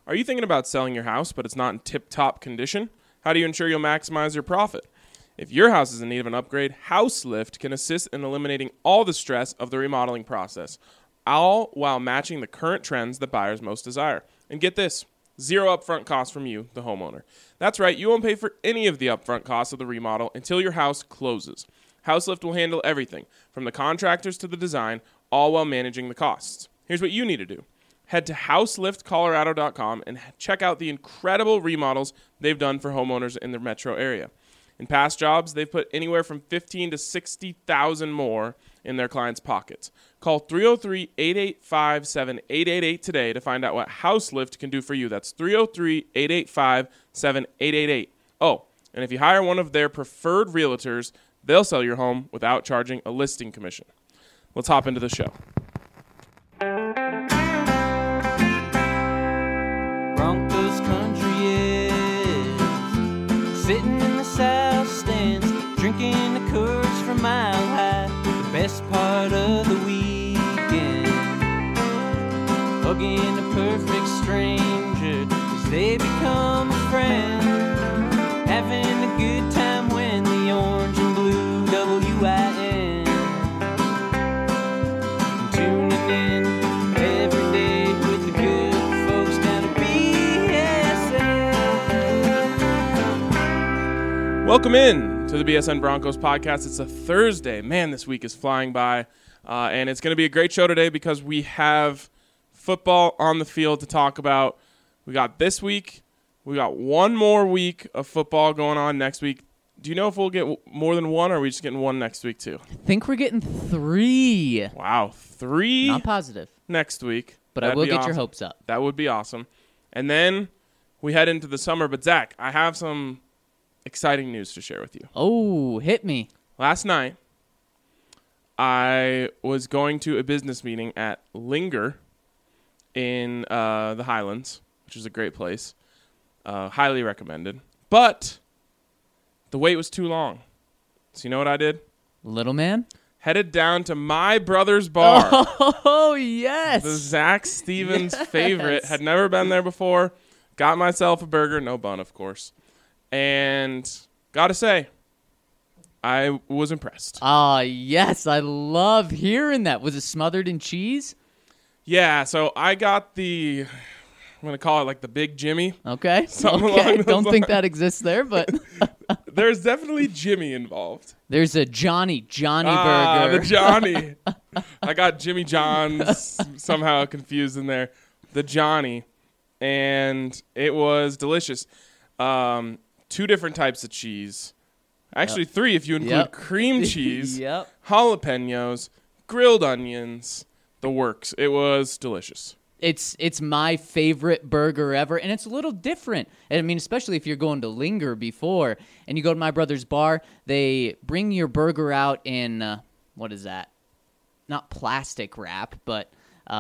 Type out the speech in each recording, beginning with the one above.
Are you thinking about selling your house, but it's not in tip-top condition? How do you ensure you'll maximize your profit? If your house is in need of an upgrade, HouseLift can assist in eliminating all the stress of the remodeling process, all while matching the current trends that buyers most desire. And get this, zero upfront costs from you, the homeowner. That's right, you won't pay for any of the upfront costs of the remodel until your house closes. HouseLift will handle everything, from the contractors to the design, all while managing the costs. Here's what you need to do. Head to houseliftcolorado.com and check out the incredible remodels they've done for homeowners in the metro area. In past jobs, they've put anywhere from $15,000 to $60,000 more in their clients' pockets. Call 303-885-7888 today to find out what HouseLift can do for you. That's 303-885-7888. Oh, and if you hire one of their preferred realtors, they'll sell your home without charging a listing commission. Let's hop into the show. Broncos country is sitting in the south stands, drinking the Coors from Mile High. The best part of the weekend, hugging a perfect stranger as they become a friend, having a good time when the orange and blue WIN, tuning in every day with the good folks down at BSN. Welcome in to the BSN Broncos podcast. It's a Thursday. Man, this week is flying by, and it's going to be a great show today because we have football on the field to talk about. We got this week. We got one more week of football going on next week. Do you know if we'll get more than one, or are we just getting one next week too? I think we're getting 3. Wow, 3 Not positive, next week. but That'd I will be get awesome. your hopes up. That would be awesome. And then we head into the summer. But Zach, I have some exciting news to share with you. Oh, hit me. Last night, I was going to a business meeting at Linger in the Highlands, which is a great place. Highly recommended. But the wait was too long. So you know what I did? Little man? Headed down to my brother's bar. Oh, yes. The Zach Stevens favorite. Had never been there before. Got myself a burger. No bun, of course. And got to say, I was impressed. Ah, yes. I love hearing that. Was it smothered in cheese? Yeah, so I got I'm going to call it like the Big Jimmy. Okay. Something along Okay. those Don't think lines. that exists there, but There's definitely Jimmy involved. there's a Johnny Ah, burger. the Johnny. I got Jimmy John's somehow confused in there. The Johnny. And it was delicious. 2 different types of cheese. Actually, 3 if you include Yep. cream cheese, Yep. jalapenos, grilled onions, the works. It was delicious. It's my favorite burger ever, and it's a little different. I mean, especially if you're going to Linger before, and you go to my brother's bar, they bring your burger out in, what is that? Not plastic wrap, but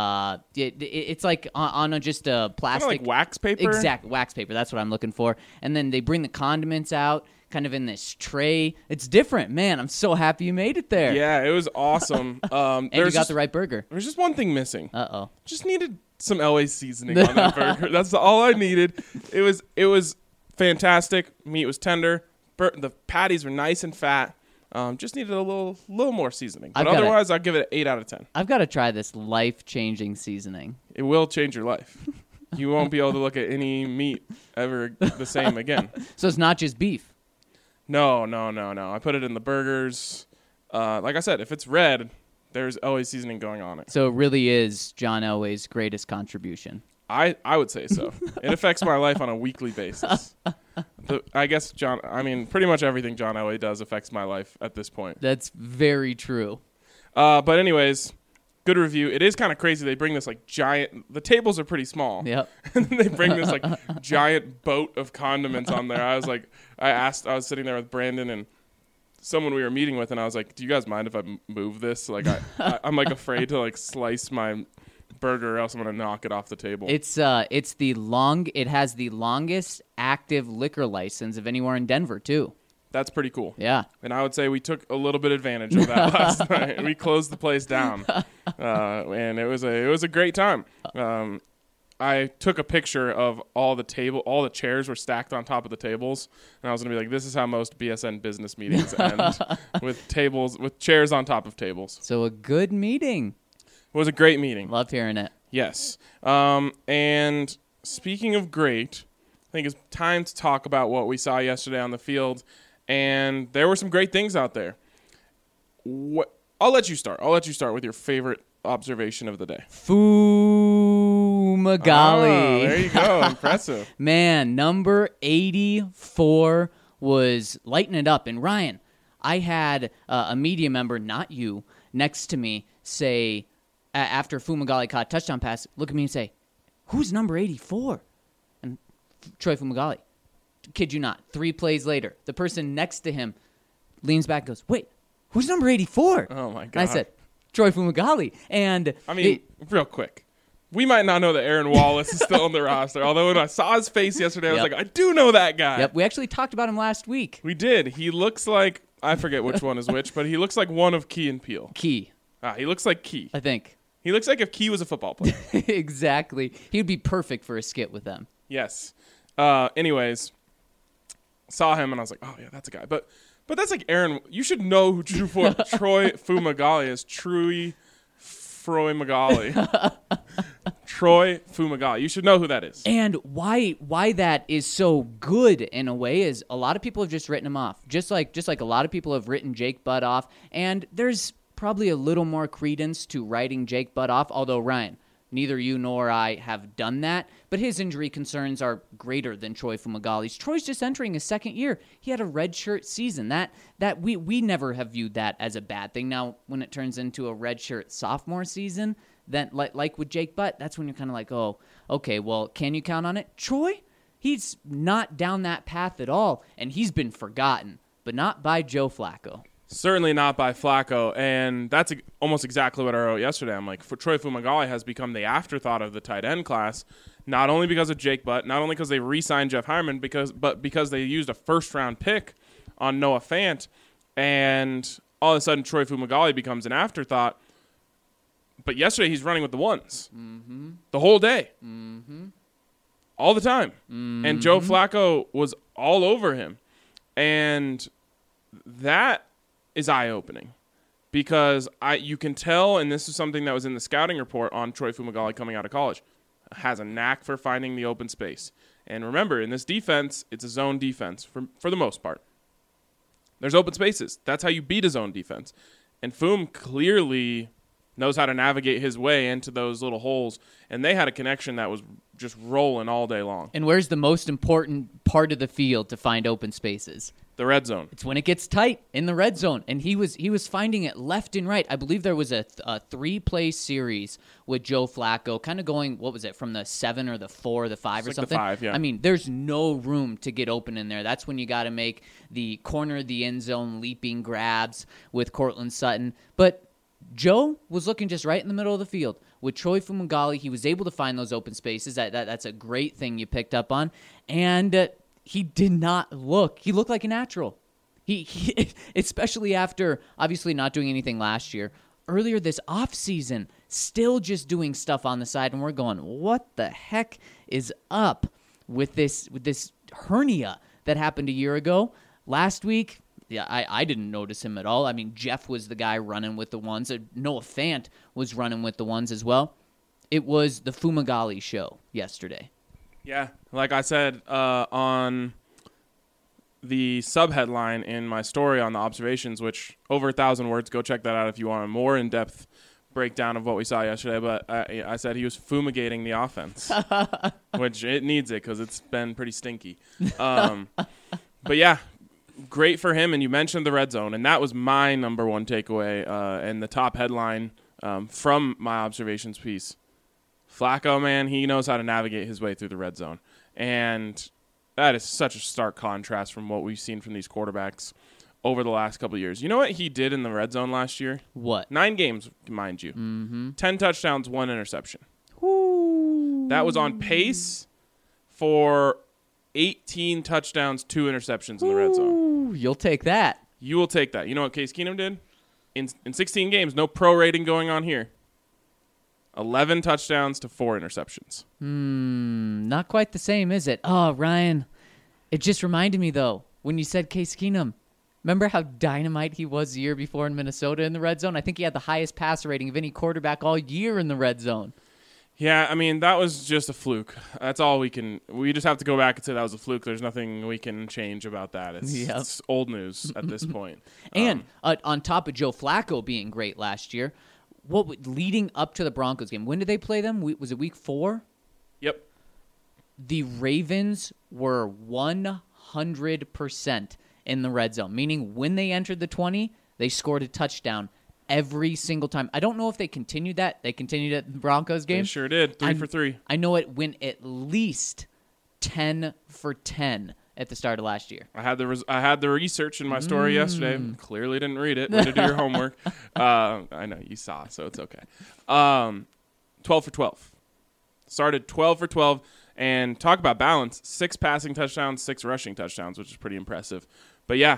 it's like on just a Kind of plastic. like wax paper? Exact wax paper. That's what I'm looking for. And then they bring the condiments out, kind of in this tray. It's different, man. I'm so happy you made it there. Yeah, it was awesome. And you got the right burger. There's just one thing missing. Uh-oh. Just needed some LA seasoning on that burger. That's all I needed. It was fantastic. Meat was tender. The patties were nice and fat. Just needed a little more seasoning. But otherwise, I'll give it an 8 out of 10. I've got to try this life-changing seasoning. It will change your life. You won't be able to look at any meat ever the same again. So it's not just beef. No. I put it in the burgers. Like I said, if it's red, there's always seasoning going on it. So it really is John Elway's greatest contribution. I would say so. It affects my life on a weekly basis. I guess pretty much everything John Elway does affects my life at this point. That's very true. But anyways, good review. It is kind of crazy. They bring this like giant. The tables are pretty small. Yep. And then they bring this like giant boat of condiments on there. I was sitting there with Brandon and someone we were meeting with, and I was like, "Do you guys mind if I move this? Like, I'm like afraid to like slice my burger, or else I'm gonna knock it off the table." It has the longest active liquor license of anywhere in Denver too. That's pretty cool. Yeah. And I would say we took a little bit advantage of that last night. We closed the place down, and it was a great time. I took a picture of all the chairs were stacked on top of the tables, and I was gonna be like, this is how most BSN business meetings end, with chairs on top of tables. So a good meeting. It was a great meeting. Love hearing it. Yes. And speaking of great, I think it's time to talk about what we saw yesterday on the field, and there were some great things out there. I'll let you start. I'll let you start with your favorite observation of the day. Fumagalli. Oh, there you go. Impressive. Man, number 84 was lighting it up. And Ryan, I had a media member, not you, next to me say, after Fumagalli caught a touchdown pass, look at me and say, who's number 84? And Troy Fumagalli. Kid you not. 3 plays later, the person next to him leans back and goes, wait, who's number 84? Oh, my God. And I said, Troy Fumagalli. And I mean, real quick, we might not know that Aaron Wallace is still on the roster. Although when I saw his face yesterday, I was like, I do know that guy. Yep, we actually talked about him last week. We did. He looks like, I forget which one is which, but he looks like one of Key and Peele. Key. He looks like Key. I think. He looks like if Key was a football player. Exactly. He would be perfect for a skit with them. Yes. Anyways, saw him and I was like, oh yeah, that's a guy. But that's like Aaron. You should know who Troy Fumagalli is. Troy Fumagalli. Troy Fumagalli. You should know who that is. And why that is so good in a way is a lot of people have just written him off. Just like a lot of people have written Jake Butt off. And there's probably a little more credence to writing Jake Butt off. Although, Ryan, neither you nor I have done that, but his injury concerns are greater than Troy Fumagalli's. Troy's just entering his second year. He had a redshirt season. That we never have viewed that as a bad thing. Now, when it turns into a redshirt sophomore season, then like with Jake Butt, that's when you're kind of like, oh, okay, well, can you count on it? Troy, he's not down that path at all, and he's been forgotten, but not by Joe Flacco. Certainly not by Flacco, and that's almost exactly what I wrote yesterday. I'm like, for Troy Fumagalli has become the afterthought of the tight end class, not only because of Jake Butt, not only because they re-signed Jeff Hyman, but because they used a first-round pick on Noah Fant, and all of a sudden Troy Fumagalli becomes an afterthought. But yesterday he's running with the ones the whole day, all the time, and Joe Flacco was all over him, and that is eye-opening because you can tell, and this is something that was in the scouting report on Troy Fumagalli coming out of college, has a knack for finding the open space. And remember, in this defense, it's a zone defense for the most part. There's open spaces. That's how you beat a zone defense. And Fum clearly knows how to navigate his way into those little holes, and they had a connection that was just rolling all day long. And where's the most important part of the field to find open spaces? The red zone. It's when it gets tight in the red zone, and he was finding it left and right. I believe there was a 3-play series with Joe Flacco, kind of going, what was it, from the 7 or the 4 or the 5 or like something? The 5, yeah. I mean, there's no room to get open in there. That's when you got to make the corner of the end zone leaping grabs with Cortland Sutton. But Joe was looking just right in the middle of the field. With Troy Fumagalli, he was able to find those open spaces. That's a great thing you picked up on. And he did not look. He looked like a natural. He especially after obviously not doing anything last year. Earlier this offseason, still just doing stuff on the side, and we're going, what the heck is up with this hernia that happened a year ago? Last week, yeah, I didn't notice him at all. I mean, Jeff was the guy running with the ones. Noah Fant was running with the ones as well. It was the Fumagalli show yesterday. Yeah, like I said on the subheadline in my story on the observations, which over 1,000 words, go check that out if you want a more in-depth breakdown of what we saw yesterday. But I said he was fumigating the offense, which it needs it because it's been pretty stinky. But yeah, great for him. And you mentioned the red zone, and that was my number one takeaway and the top headline from my observations piece. Flacco, man, he knows how to navigate his way through the red zone. And that is such a stark contrast from what we've seen from these quarterbacks over the last couple of years. You know what he did in the red zone last year? What? 9 games, mind you. 10 touchdowns, 1 interception. Ooh. That was on pace for 18 touchdowns, 2 interceptions in the red zone. You'll take that. You will take that. You know what Case Keenum did? In 16 games, no pro rating going on here. 11 touchdowns to 4 interceptions. Not quite the same, is it? Oh, Ryan, it just reminded me, though, when you said Case Keenum. Remember how dynamite he was the year before in Minnesota in the red zone? I think he had the highest passer rating of any quarterback all year in the red zone. Yeah, I mean, that was just a fluke. That's all we just have to go back and say that was a fluke. There's nothing we can change about that. It's old news at this point. And on top of Joe Flacco being great last year, leading up to the Broncos game, when did they play them? Was it week 4? Yep. The Ravens were 100% in the red zone, meaning when they entered the 20, they scored a touchdown every single time. I don't know if they continued that. They continued at the Broncos game. They sure did. 3 for 3. I know it went at least 10 for 10 at the start of last year. I had the research in my story yesterday. Clearly didn't read it. Way to do your homework. I know you saw, so it's okay. 12 for 12. Started 12 for 12. And talk about balance. 6 passing touchdowns, 6 rushing touchdowns, which is pretty impressive. But yeah,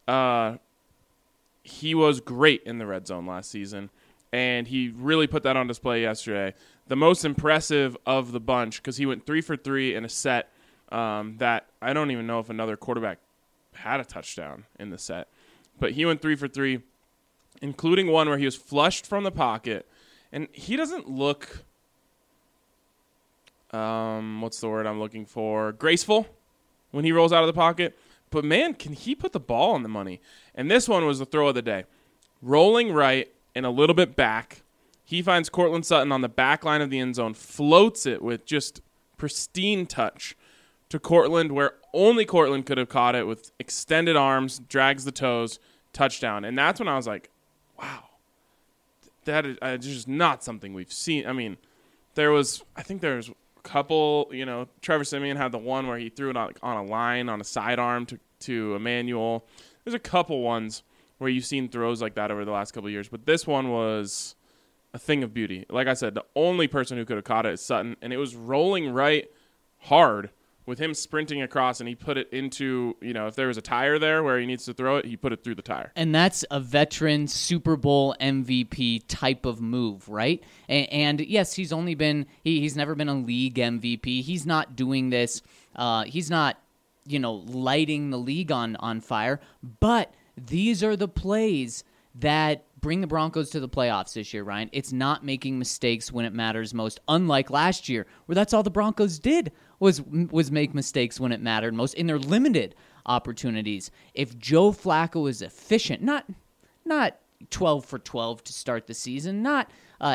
he was great in the red zone last season, and he really put that on display yesterday. The most impressive of the bunch, because he went 3 for 3 in a set that I don't even know if another quarterback had a touchdown in the set. But he went 3 for 3, including one where he was flushed from the pocket, and he doesn't look what's the word I'm looking for? Graceful when he rolls out of the pocket. But, man, can he put the ball on the money? And this one was the throw of the day. Rolling right and a little bit back, he finds Cortland Sutton on the back line of the end zone, floats it with just pristine touch to Cortland, where only Cortland could have caught it with extended arms, drags the toes, touchdown. And that's when I was like, wow, that is just not something we've seen. I mean, there was a couple, Trevor Siemian had the one where he threw it on a line on a sidearm to Emmanuel. There's a couple ones where you've seen throws like that over the last couple of years, but this one was a thing of beauty. Like I said, the only person who could have caught it is Sutton, and it was rolling right hard with him sprinting across, and he put it into, if there was a tire there where he needs to throw it, he put it through the tire. And that's a veteran Super Bowl MVP type of move, right? And yes, he's only been, he's never been a league MVP. He's not doing this. He's not, lighting the league on fire. But these are the plays that bring the Broncos to the playoffs this year, Ryan. It's not making mistakes when it matters most, unlike last year, where that's all the Broncos did was make mistakes when it mattered most in their limited opportunities. If Joe Flacco is efficient, not 12 for 12 to start the season, not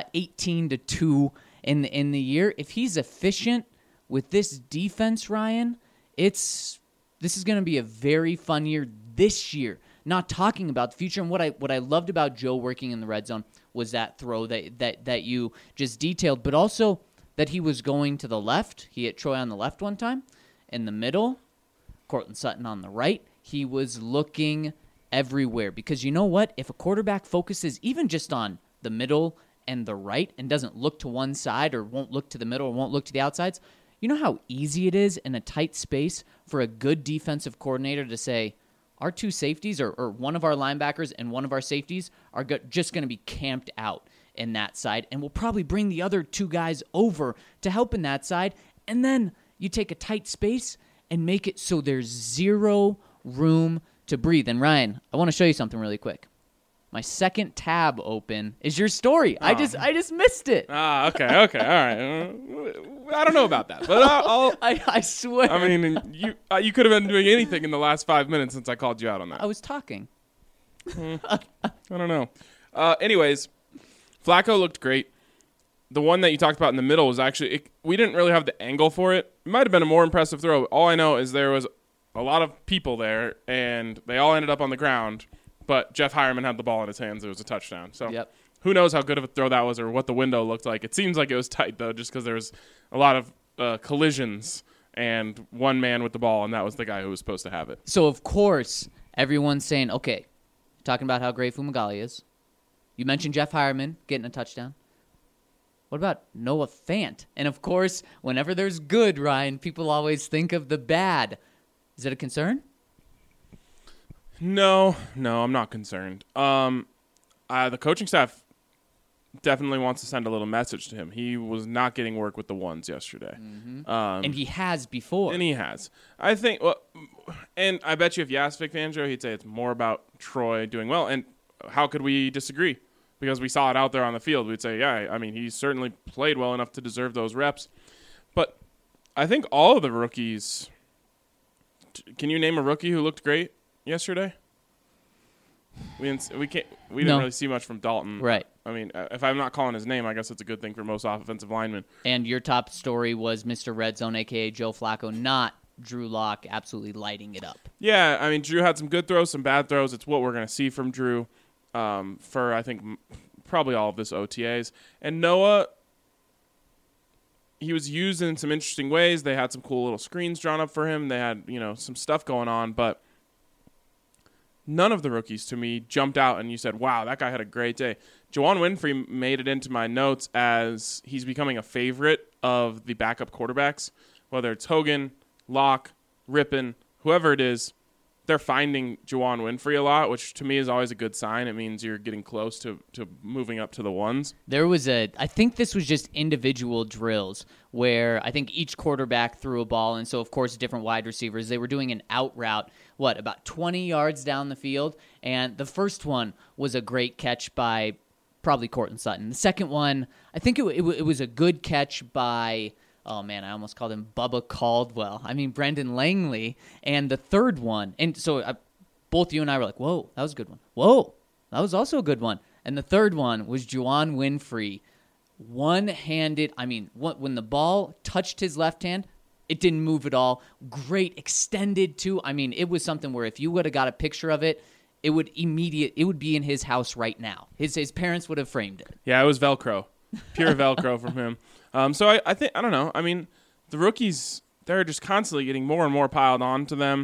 18-2 in the year, if he's efficient with this defense, Ryan, this is going to be a very fun year this year. Not talking about the future. And what I loved about Joe working in the red zone was that throw that you just detailed, but also that he was going to the left. He hit Troy on the left one time. In the middle, Cortland Sutton on the right. He was looking everywhere, because you know what? If a quarterback focuses even just on the middle and the right and doesn't look to one side or won't look to the middle or won't look to the outsides, you know how easy it is in a tight space for a good defensive coordinator to say, our two safeties or one of our linebackers and one of our safeties are just going to be camped out in that side, and we'll probably bring the other two guys over to help in that side, and then you take a tight space and make it so there's zero room to breathe. And Ryan, I want to show you something really quick. My second tab open is your story. Oh. I just missed it. Okay, all right. I don't know about that, but I swear. I mean, you could have been doing anything in the last 5 minutes since I called you out on that. I was talking. I don't know. Anyways, Flacco looked great. The one that you talked about in the middle was actually, we didn't really have the angle for it. It might have been a more impressive throw. All I know is there was a lot of people there, and they all ended up on the ground. But Jeff Hireman had the ball in his hands. It was a touchdown. So Who knows how good of a throw that was or what the window looked like. It seems like it was tight, though, just because there was a lot of collisions and one man with the ball, and that was the guy who was supposed to have it. So, of course, everyone's saying, okay, talking about how great Fumagalli is. You mentioned Jeff Hireman getting a touchdown. What about Noah Fant? And, of course, whenever there's good, Ryan, people always think of the bad. Is it a concern? No, I'm not concerned. The coaching staff definitely wants to send a little message to him. He was not getting work with the ones yesterday. And he has before. And he has. I think, well, and I bet you if you asked Vic Fangio, he'd say it's more about Troy doing well. And how could we disagree? Because we saw it out there on the field. We'd say, yeah, I mean, he certainly played well enough to deserve those reps. But I think all of the rookies, can you name a rookie who looked great yesterday? We didn't really see much from Dalton. Right. I mean, if I'm not calling his name, I guess it's a good thing for most offensive linemen. And your top story was Mr. Red Zone, a.k.a. Joe Flacco, not Drew Lock, absolutely lighting it up. Yeah, I mean, Drew had some good throws, some bad throws. It's what we're going to see from Drew for, I think, probably all of this OTAs. And Noah, he was used in some interesting ways. They had some cool little screens drawn up for him. They had, some stuff going on, but none of the rookies to me jumped out and you said, wow, that guy had a great day. Juwann Winfree made it into my notes as he's becoming a favorite of the backup quarterbacks, whether it's Hogan, Locke, Rippon, whoever it is. They're finding Juwann Winfree a lot, which to me is always a good sign. It means you're getting close to moving up to the ones. I think this was just individual drills where I think each quarterback threw a ball, and so, of course, different wide receivers. They were doing an out route, about 20 yards down the field, and the first one was a great catch by probably Courtland Sutton. The second one, I think it was a good catch by... Oh, man, I almost called him Bubba Caldwell. I mean, Brendan Langley. And the third one, and so both you and I were like, whoa, that was a good one. Whoa, that was also a good one. And the third one was Juwann Winfree, one-handed. I mean, when the ball touched his left hand, it didn't move at all. Great, extended too. I mean, it was something where if you would have got a picture of it, it would be in his house right now. His parents would have framed it. Yeah, it was Velcro. Pure Velcro from him. So I think, I don't know. I mean, the rookies, they're just constantly getting more and more piled on to them.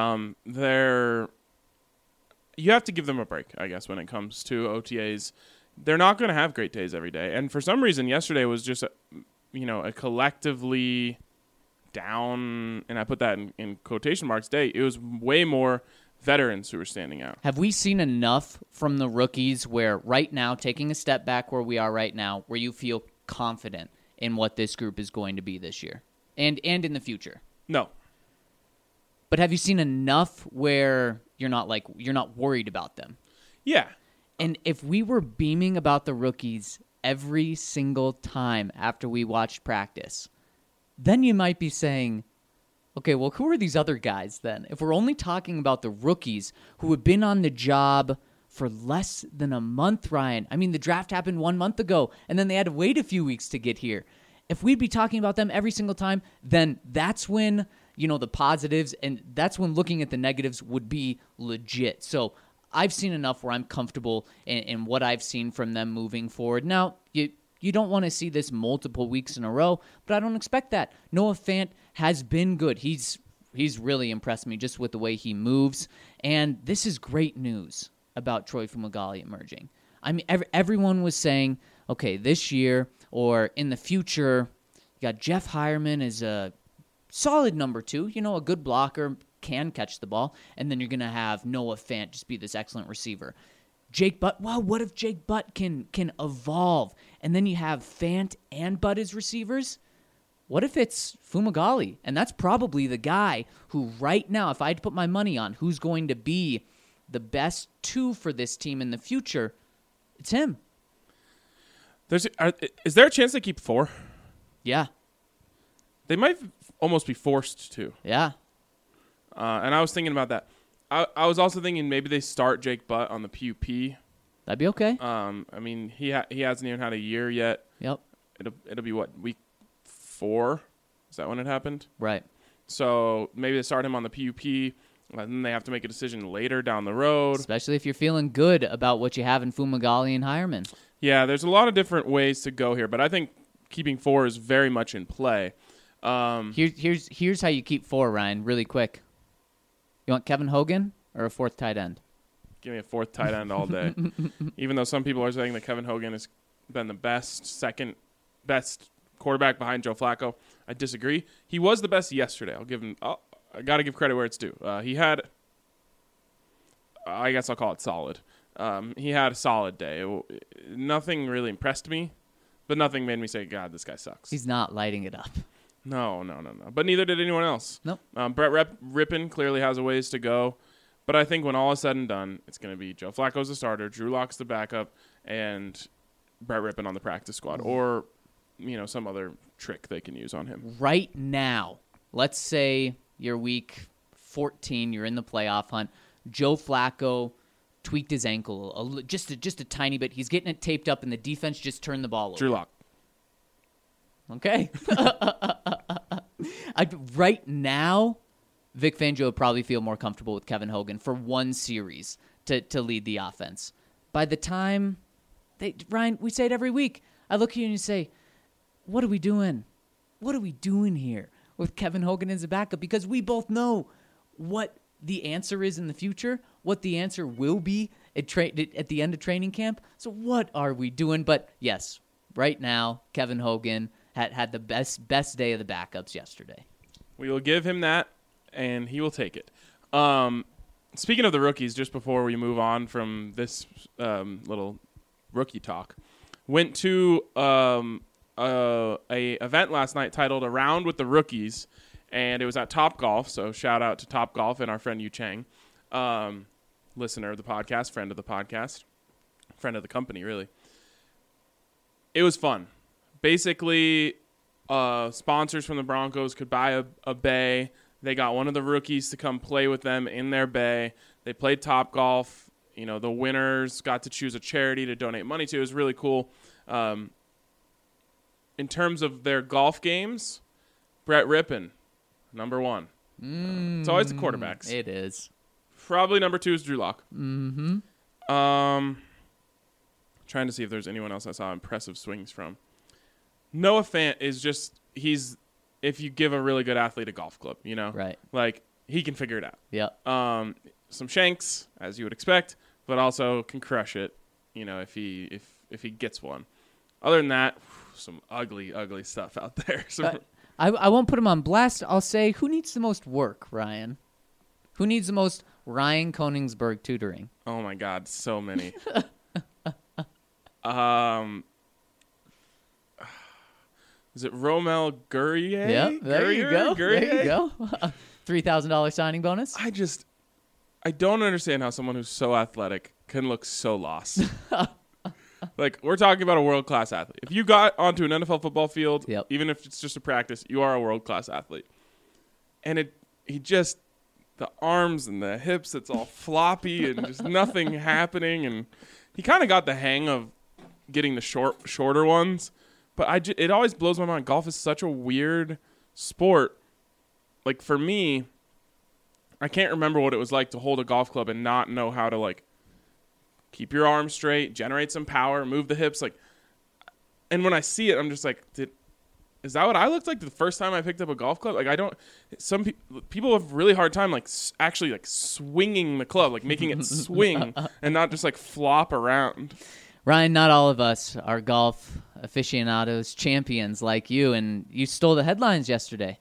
You have to give them a break, I guess, when it comes to OTAs. They're not going to have great days every day. And for some reason, yesterday was just, a collectively down, and I put that in quotation marks, day. It was way more veterans who were standing out. Have we seen enough from the rookies where right now, taking a step back where we are right now, where you feel confident in what this group is going to be this year and in the future? No. But have you seen enough where you're not worried about them? Yeah. And if we were beaming about the rookies every single time after we watched practice, then you might be saying, okay, well, who are these other guys then? If we're only talking about the rookies who have been on the job for less than a month, Ryan. I mean, the draft happened 1 month ago, and then they had to wait a few weeks to get here. If we'd be talking about them every single time, then that's when, the positives, and that's when looking at the negatives would be legit. So I've seen enough where I'm comfortable in what I've seen from them moving forward. Now, you don't want to see this multiple weeks in a row, but I don't expect that. Noah Fant has been good. He's really impressed me just with the way he moves, and this is great news about Troy Fumagalli emerging. I mean, everyone was saying, okay, this year or in the future, you got Jeff Hireman as a solid number 2, a good blocker, can catch the ball, and then you're going to have Noah Fant just be this excellent receiver. Jake Butt, wow, what if Jake Butt can evolve? And then you have Fant and Butt as receivers? What if it's Fumagalli? And that's probably the guy who right now, if I had to put my money on who's going to be the best 2 for this team in the future, it's him. Is there a chance they keep 4? Yeah. They might almost be forced to. Yeah. And I was thinking about that. I was also thinking maybe they start Jake Butt on the PUP. That'd be okay. I mean, he hasn't even had a year yet. Yep. It'll be what, week 4? Is that when it happened? Right. So maybe they start him on the PUP, and then they have to make a decision later down the road. Especially if you're feeling good about what you have in Fumagalli and Hireman. Yeah, there's a lot of different ways to go here, but I think keeping 4 is very much in play. Here's how you keep 4, Ryan, really quick. You want Kevin Hogan or a 4th tight end? Give me a 4th tight end all day. Even though some people are saying that Kevin Hogan has been the second best quarterback behind Joe Flacco, I disagree. He was the best yesterday. I'll give him. I got to give credit where it's due. He had, I guess I'll call it solid. He had a solid day. Nothing really impressed me, but nothing made me say, God, this guy sucks. He's not lighting it up. No. But neither did anyone else. Nope. Brett Rippon clearly has a ways to go. But I think when all is said and done, it's going to be Joe Flacco's the starter, Drew Lock's the backup, and Brett Rippon on the practice squad. Or, some other trick they can use on him. Right now, let's say you're week 14, you're in the playoff hunt. Joe Flacco tweaked his ankle just a tiny bit. He's getting it taped up, and the defense just turned the ball over. Drew Lock. Okay. Right now, Vic Fangio would probably feel more comfortable with Kevin Hogan for one series to lead the offense. By the time Ryan, we say it every week. I look at you and you say, what are we doing? What are we doing here with Kevin Hogan as a backup? Because we both know what the answer is in the future, what the answer will be at the end of training camp. So what are we doing? But yes, right now, Kevin Hogan had the best day of the backups yesterday. We will give him that, and he will take it. Speaking of the rookies, just before we move on from this little rookie talk, went to a event last night titled Around with the Rookies, and it was at Topgolf. So shout out to Topgolf and our friend Yu Chang, listener of the podcast, friend of the podcast, friend of the company, really. It was fun. Basically, sponsors from the Broncos could buy a bay. They got one of the rookies to come play with them in their bay. They played Topgolf. The winners got to choose a charity to donate money to. It was really cool. In terms of their golf games, Brett Rippon, number one. It's always the quarterbacks. It is. Probably number 2 is Drew Lock. Mm-hmm. Trying to see if there's anyone else I saw impressive swings from. Noah Fant is just, if you give a really good athlete a golf club, Right. Like, he can figure it out. Yep. Some shanks, as you would expect, but also can crush it, if he gets one. Other than that, some ugly stuff out there. I won't put him on blast. I'll say, who needs the most work, Ryan? Who needs the most Ryan Koenigsberg tutoring? Oh my God, so many. Is it Romel Gurrier? Yeah, there you go. Gurrier? There you go. $3,000 signing bonus. I don't understand how someone who's so athletic can look so lost. Like, we're talking about a world-class athlete. If you got onto an NFL football field, Yep. even if it's just a practice, you are a world-class athlete. And the arms and the hips, it's all floppy and just nothing happening. And he kind of got the hang of getting the shorter ones. But it always blows my mind. Golf is such a weird sport. Like, for me, I can't remember what it was like to hold a golf club and not know how to, like, keep your arms straight, generate some power, move the hips. Like, and when I see it, I'm just like, is that what I looked like the first time I picked up a golf club? Like, some people have really hard time, like, actually, like, swinging the club, like, making it swing and not just, like, flop around. Ryan, not all of us are golf aficionados, champions like you, and you stole the headlines yesterday.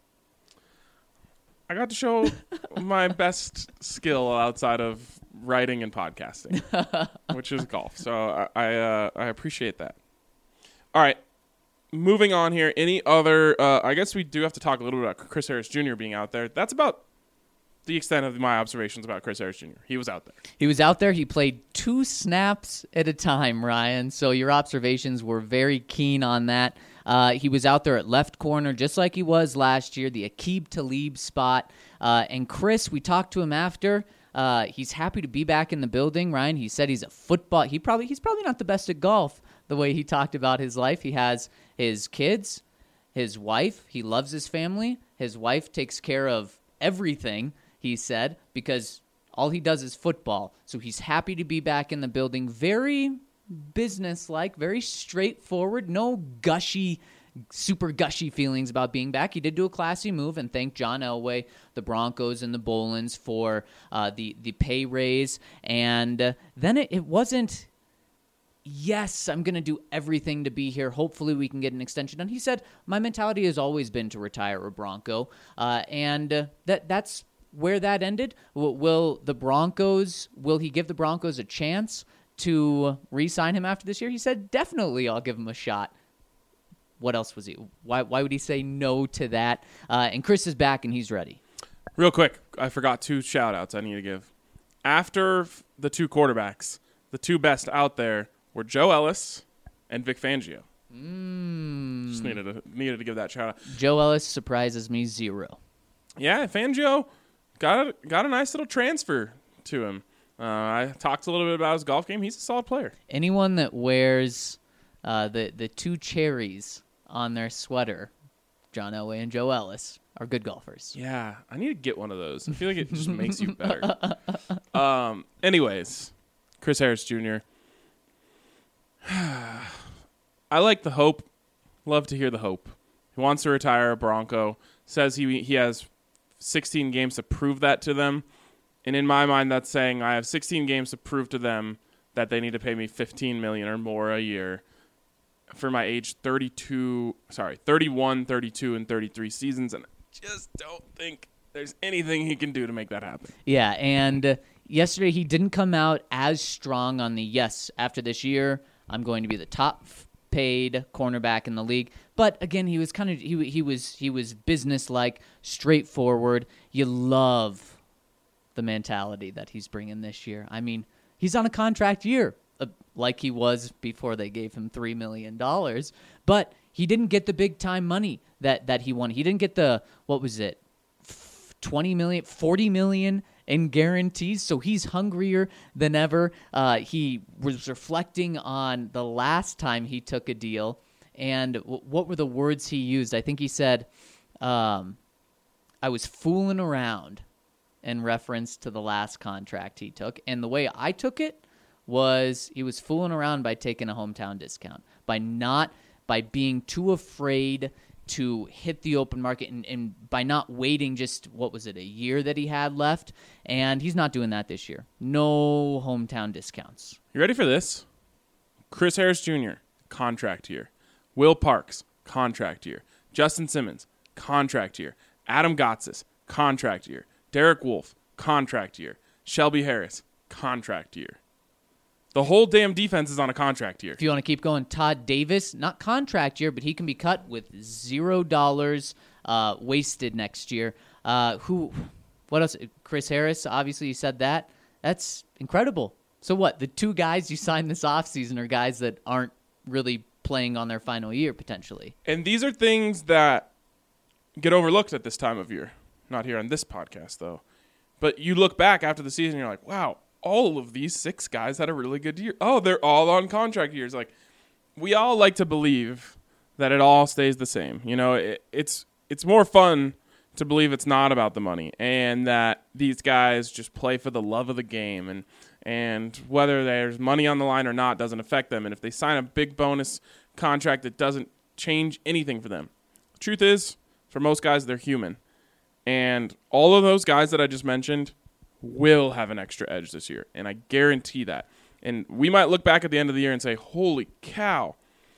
I got to show my best skill outside of writing and podcasting, which is golf. So I appreciate that. All right, moving on here. Any other? I guess we do have to talk a little bit about Chris Harris Jr. being out there. That's about the extent of my observations about Chris Harris Jr. He was out there. He was out there. He played 2 snaps at a time, Ryan. So your observations were very keen on that. He was out there at left corner, just like he was last year, the Aqib Talib spot. And Chris, we talked to him after. He's happy to be back in the building, Ryan. He said he's he's probably not the best at golf, the way he talked about his life. He has his kids, his wife. He loves his family. His wife takes care of everything, he said, because all he does is football. So he's happy to be back in the building. Very business-like, very straightforward, no super gushy feelings about being back. He did do a classy move and thank John Elway, the Broncos, and the Bolins for the pay raise. And then it wasn't, yes, I'm going to do everything to be here. Hopefully we can get an extension. And he said, my mentality has always been to retire a Bronco. And that's where that ended. Will he give the Broncos a chance to re-sign him after this year? He said, definitely I'll give him a shot. What else was he? Why would he say no to that? And Chris is back, and he's ready. Real quick, I forgot 2 shout-outs I need to give. After the 2 quarterbacks, the 2 best out there were Joe Ellis and Vic Fangio. Just needed to give that shout-out. Joe Ellis surprises me 0. Yeah, Fangio got a nice little transfer to him. I talked a little bit about his golf game. He's a solid player. Anyone that wears the 2 cherries on their sweater, John Elway and Joe Ellis, are good golfers. Yeah, I need to get one of those. I feel like it just makes you better. Anyways, Chris Harris Jr. I like the hope. Love to hear the hope. He wants to retire a Bronco. Says he has 16 games to prove that to them. And in my mind, that's saying I have 16 games to prove to them that they need to pay me $15 million or more a year for my age 31, 32, and 33 seasons. And I just don't think there's anything he can do to make that happen. Yeah, and yesterday he didn't come out as strong on the yes, after this year, I'm going to be the top paid cornerback in the league. But again, he was kind of he was business-like, straightforward. You love the mentality that he's bringing this year. I mean, he's on a contract year, like he was before they gave him $3 million. But he didn't get the big-time money that he wanted. He didn't get the, what was it, $20 million, $40 million in guarantees, so he's hungrier than ever. He was reflecting on the last time he took a deal, and what were the words he used? I think he said, I was fooling around in reference to the last contract he took. And the way I took it was he was fooling around by taking a hometown discount, by being too afraid to hit the open market and by not waiting just, what was it, a year that he had left. And he's not doing that this year. No hometown discounts. You ready for this? Chris Harris Jr., contract year. Will Parks, contract year. Justin Simmons, contract year. Adam Gotsis, contract year. Derek Wolfe, contract year. Shelby Harris, contract year. The whole damn defense is on a contract year. If you want to keep going, Todd Davis, not contract year, but he can be cut with $0 wasted next year. What else? Chris Harris, obviously you said that. That's incredible. So what? The 2 guys you signed this offseason are guys that aren't really playing on their final year, potentially. And these are things that get overlooked at this time of year. Not here on this podcast, though. But you look back after the season, you're like, wow, all of these 6 guys had a really good year. Oh, they're all on contract years. Like, we all like to believe that it all stays the same. You know, it's more fun to believe it's not about the money and that these guys just play for the love of the game and whether there's money on the line or not doesn't affect them. And if they sign a big bonus contract, it doesn't change anything for them. The truth is, for most guys, they're human. And all of those guys that I just mentioned will have an extra edge this year, and I guarantee that. And we might look back at the end of the year and say, holy cow,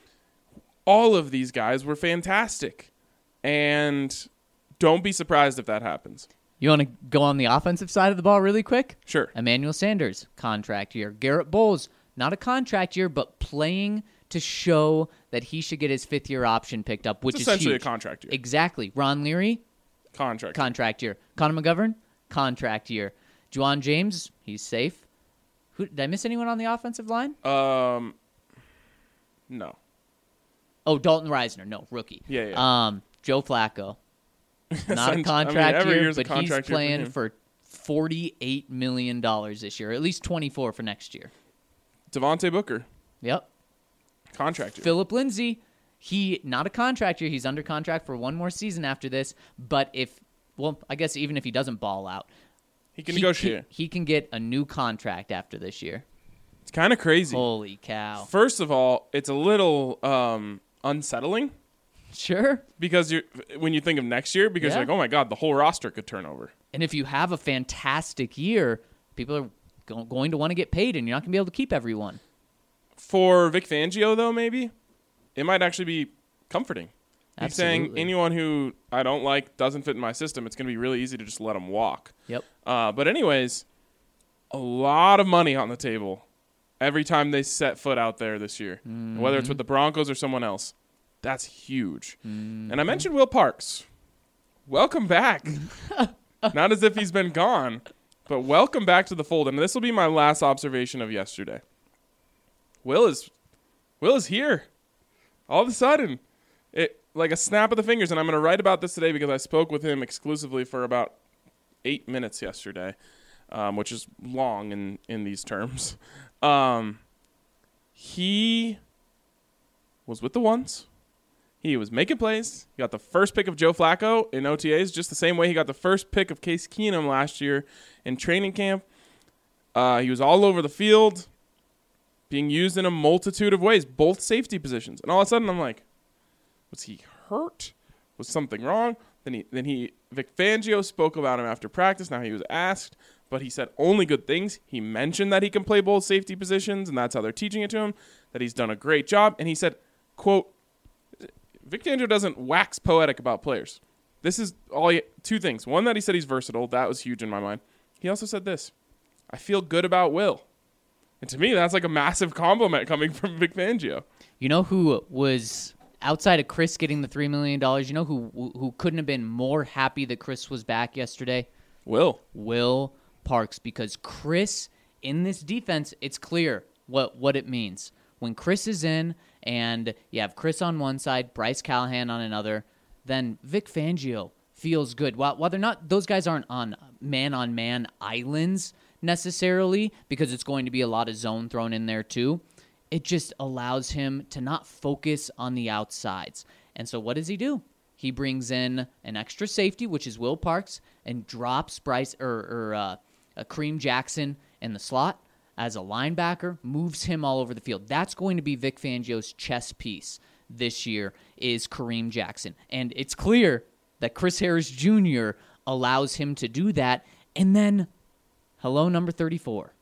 all of these guys were fantastic. And don't be surprised if that happens. You want to go on the offensive side of the ball really quick? Sure. Emmanuel Sanders, contract year. Garrett Bowles, not a contract year, but playing to show that he should get his 5th-year option picked up, which it's is essentially huge. A contract year. Exactly. Ron Leary, contract year. Connor McGovern, contract year. Juwan James, he's safe. Did I miss anyone on the offensive line? No. Oh, Dalton Reisner, no, rookie. Yeah. Joe Flacco, not a contract year, but he's playing for $48 million this year, at least 24 for next year. Devontae Booker. Yep. Contract year. Phillip Lindsay, he not a contract year. He's under contract for 1 more season after this. But I guess even if he doesn't ball out, he can negotiate. He can get a new contract after this year. It's kind of crazy. Holy cow. First of all, it's a little unsettling. Sure. Because when you think of next year, because you're like, oh my God, the whole roster could turn over. And if you have a fantastic year, people are going to want to get paid, and you're not going to be able to keep everyone. For Vic Fangio, though, maybe, it might actually be comforting. He's saying anyone who I don't like doesn't fit in my system, it's going to be really easy to just let them walk. Yep. But anyways, a lot of money on the table every time they set foot out there this year, whether it's with the Broncos or someone else. That's huge. And I mentioned Will Parks. Welcome back. Not as if he's been gone, but welcome back to the fold. And this will be my last observation of yesterday. Will is here. All of a sudden, like a snap of the fingers. And I'm going to write about this today because I spoke with him exclusively for about 8 minutes yesterday, which is long in these terms. He was with the ones. He was making plays. He got the first pick of Joe Flacco in OTAs, just the same way he got the first pick of Case Keenum last year in training camp. He was all over the field, being used in a multitude of ways, both safety positions. And all of a sudden, I'm like, was he hurt? Was something wrong? Then Vic Fangio spoke about him after practice. Now he was asked, but he said only good things. He mentioned that he can play both safety positions, and that's how they're teaching it to him, that he's done a great job. And he said, quote, Vic Fangio doesn't wax poetic about players. This is two things. One, that he said he's versatile. That was huge in my mind. He also said this, I feel good about Will. And to me, that's like a massive compliment coming from Vic Fangio. You know who was outside of Chris getting the $3 million? You know who couldn't have been more happy that Chris was back yesterday? Will Parks. Because Chris, in this defense, it's clear what it means. When Chris is in and you have Chris on one side, Bryce Callahan on another, then Vic Fangio feels good. While they're not, those guys aren't on man islands necessarily, because it's going to be a lot of zone thrown in there too. It just allows him to not focus on the outsides. And so what does he do? He brings in an extra safety, which is Will Parks, and drops Bryce Kareem Jackson in the slot as a linebacker, moves him all over the field. That's going to be Vic Fangio's chess piece this year, is Kareem Jackson. And it's clear that Chris Harris Jr. allows him to do that. And then, hello, number 34.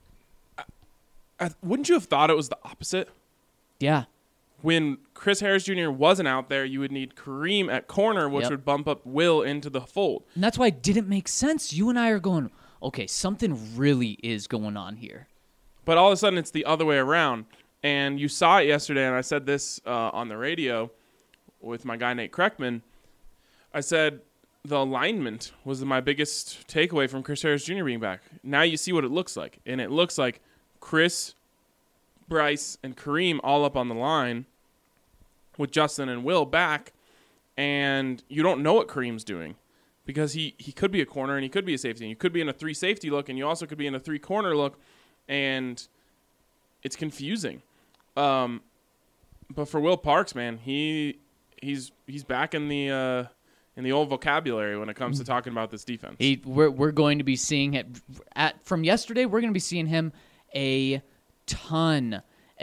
Wouldn't you have thought it was the opposite? Yeah. When Chris Harris Jr. wasn't out there, you would need Kareem at corner, which would bump up Will into the fold. And that's why it didn't make sense. You and I are going, okay, something really is going on here. But all of a sudden, it's the other way around. And you saw it yesterday, and I said this on the radio with my guy Nate Kreckman. I said the alignment was my biggest takeaway from Chris Harris Jr. being back. Now you see what it looks like. And it looks like Chris, Bryce, and Kareem all up on the line with Justin and Will back. And you don't know what Kareem's doing because he could be a corner and he could be a safety. And you could be in a 3 safety look, and you also could be in a 3 corner look. And it's confusing. But for Will Parks, man, he's back in the old vocabulary when it comes to talking about this defense. We're going to be seeing it from yesterday. We're going to be seeing him a ton.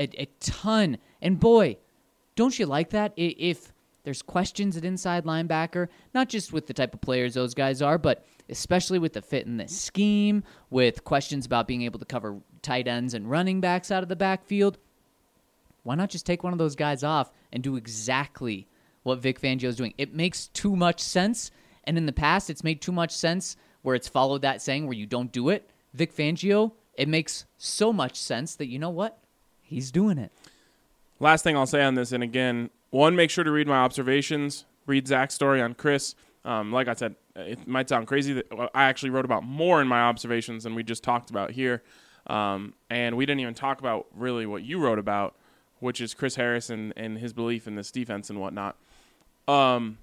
And boy, don't you like that? If there's questions at inside linebacker, not just with the type of players those guys are, but especially with the fit in this scheme, with questions about being able to cover tight ends and running backs out of the backfield, why not just take one of those guys off and do exactly what Vic Fangio is doing? It makes too much sense, and in the past, it's made too much sense where it's followed that saying where you don't do it. Vic Fangio, it makes so much sense that, you know what? He's doing it. Last thing I'll say on this, and again, one, make sure to read my observations. Read Zach's story on Chris. Like I said, it might sound crazy that I actually wrote about more in my observations than we just talked about here. And we didn't even talk about really what you wrote about, which is Chris Harris and his belief in this defense and whatnot. One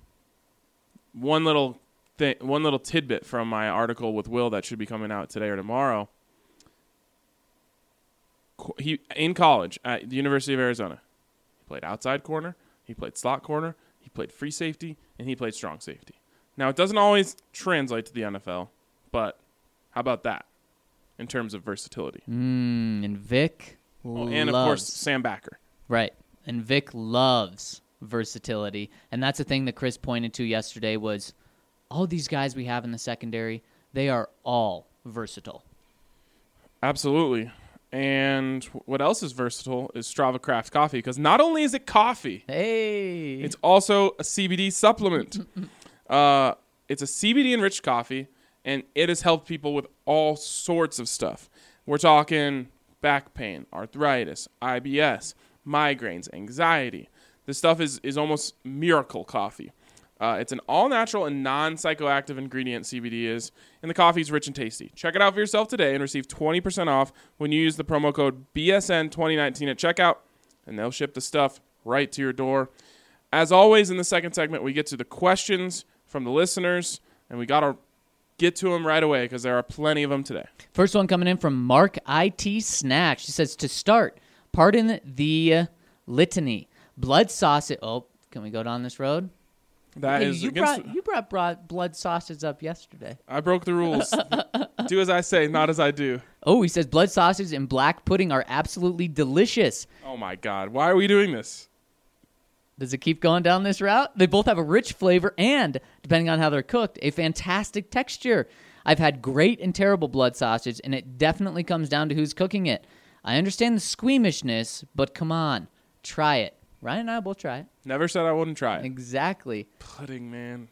little tidbit from my article with Will that should be coming out today or tomorrow. He in college at the University of Arizona, he played outside corner, he played slot corner, he played free safety, and he played strong safety. Now, it doesn't always translate to the NFL, but how about that in terms of versatility? And Vic loves. And, of course, Sam Backer. Right. And Vic loves versatility. And that's the thing that Chris pointed to yesterday was all these guys we have in the secondary, they are all versatile. Absolutely. And what else is versatile is Strava Craft Coffee, because not only is it coffee, it's also a CBD supplement. It's a CBD-enriched coffee, and it has helped people with all sorts of stuff. We're talking back pain, arthritis, IBS, migraines, anxiety. This stuff is almost miracle coffee. It's an all-natural and non-psychoactive ingredient, CBD is, and the coffee is rich and tasty. Check it out for yourself today and receive 20% off when you use the promo code BSN2019 at checkout, and they'll ship the stuff right to your door. As always, in the second segment, we get to the questions from the listeners, and we got to get to them right away because there are plenty of them today. First one coming in from Mark IT Snack. She says, to start, pardon the litany. Blood sausage. Oh, can we go down this road? That is you brought blood sausage up yesterday. I broke the rules. Do as I say, not as I do. Oh, he says blood sausage and black pudding are absolutely delicious. Oh, my God. Why are we doing this? Does it keep going down this route? They both have a rich flavor and, depending on how they're cooked, a fantastic texture. I've had great and terrible blood sausage, and it definitely comes down to who's cooking it. I understand the squeamishness, but come on, try it. Ryan and I will try it. Never said I wouldn't try it. Exactly. Pudding, man.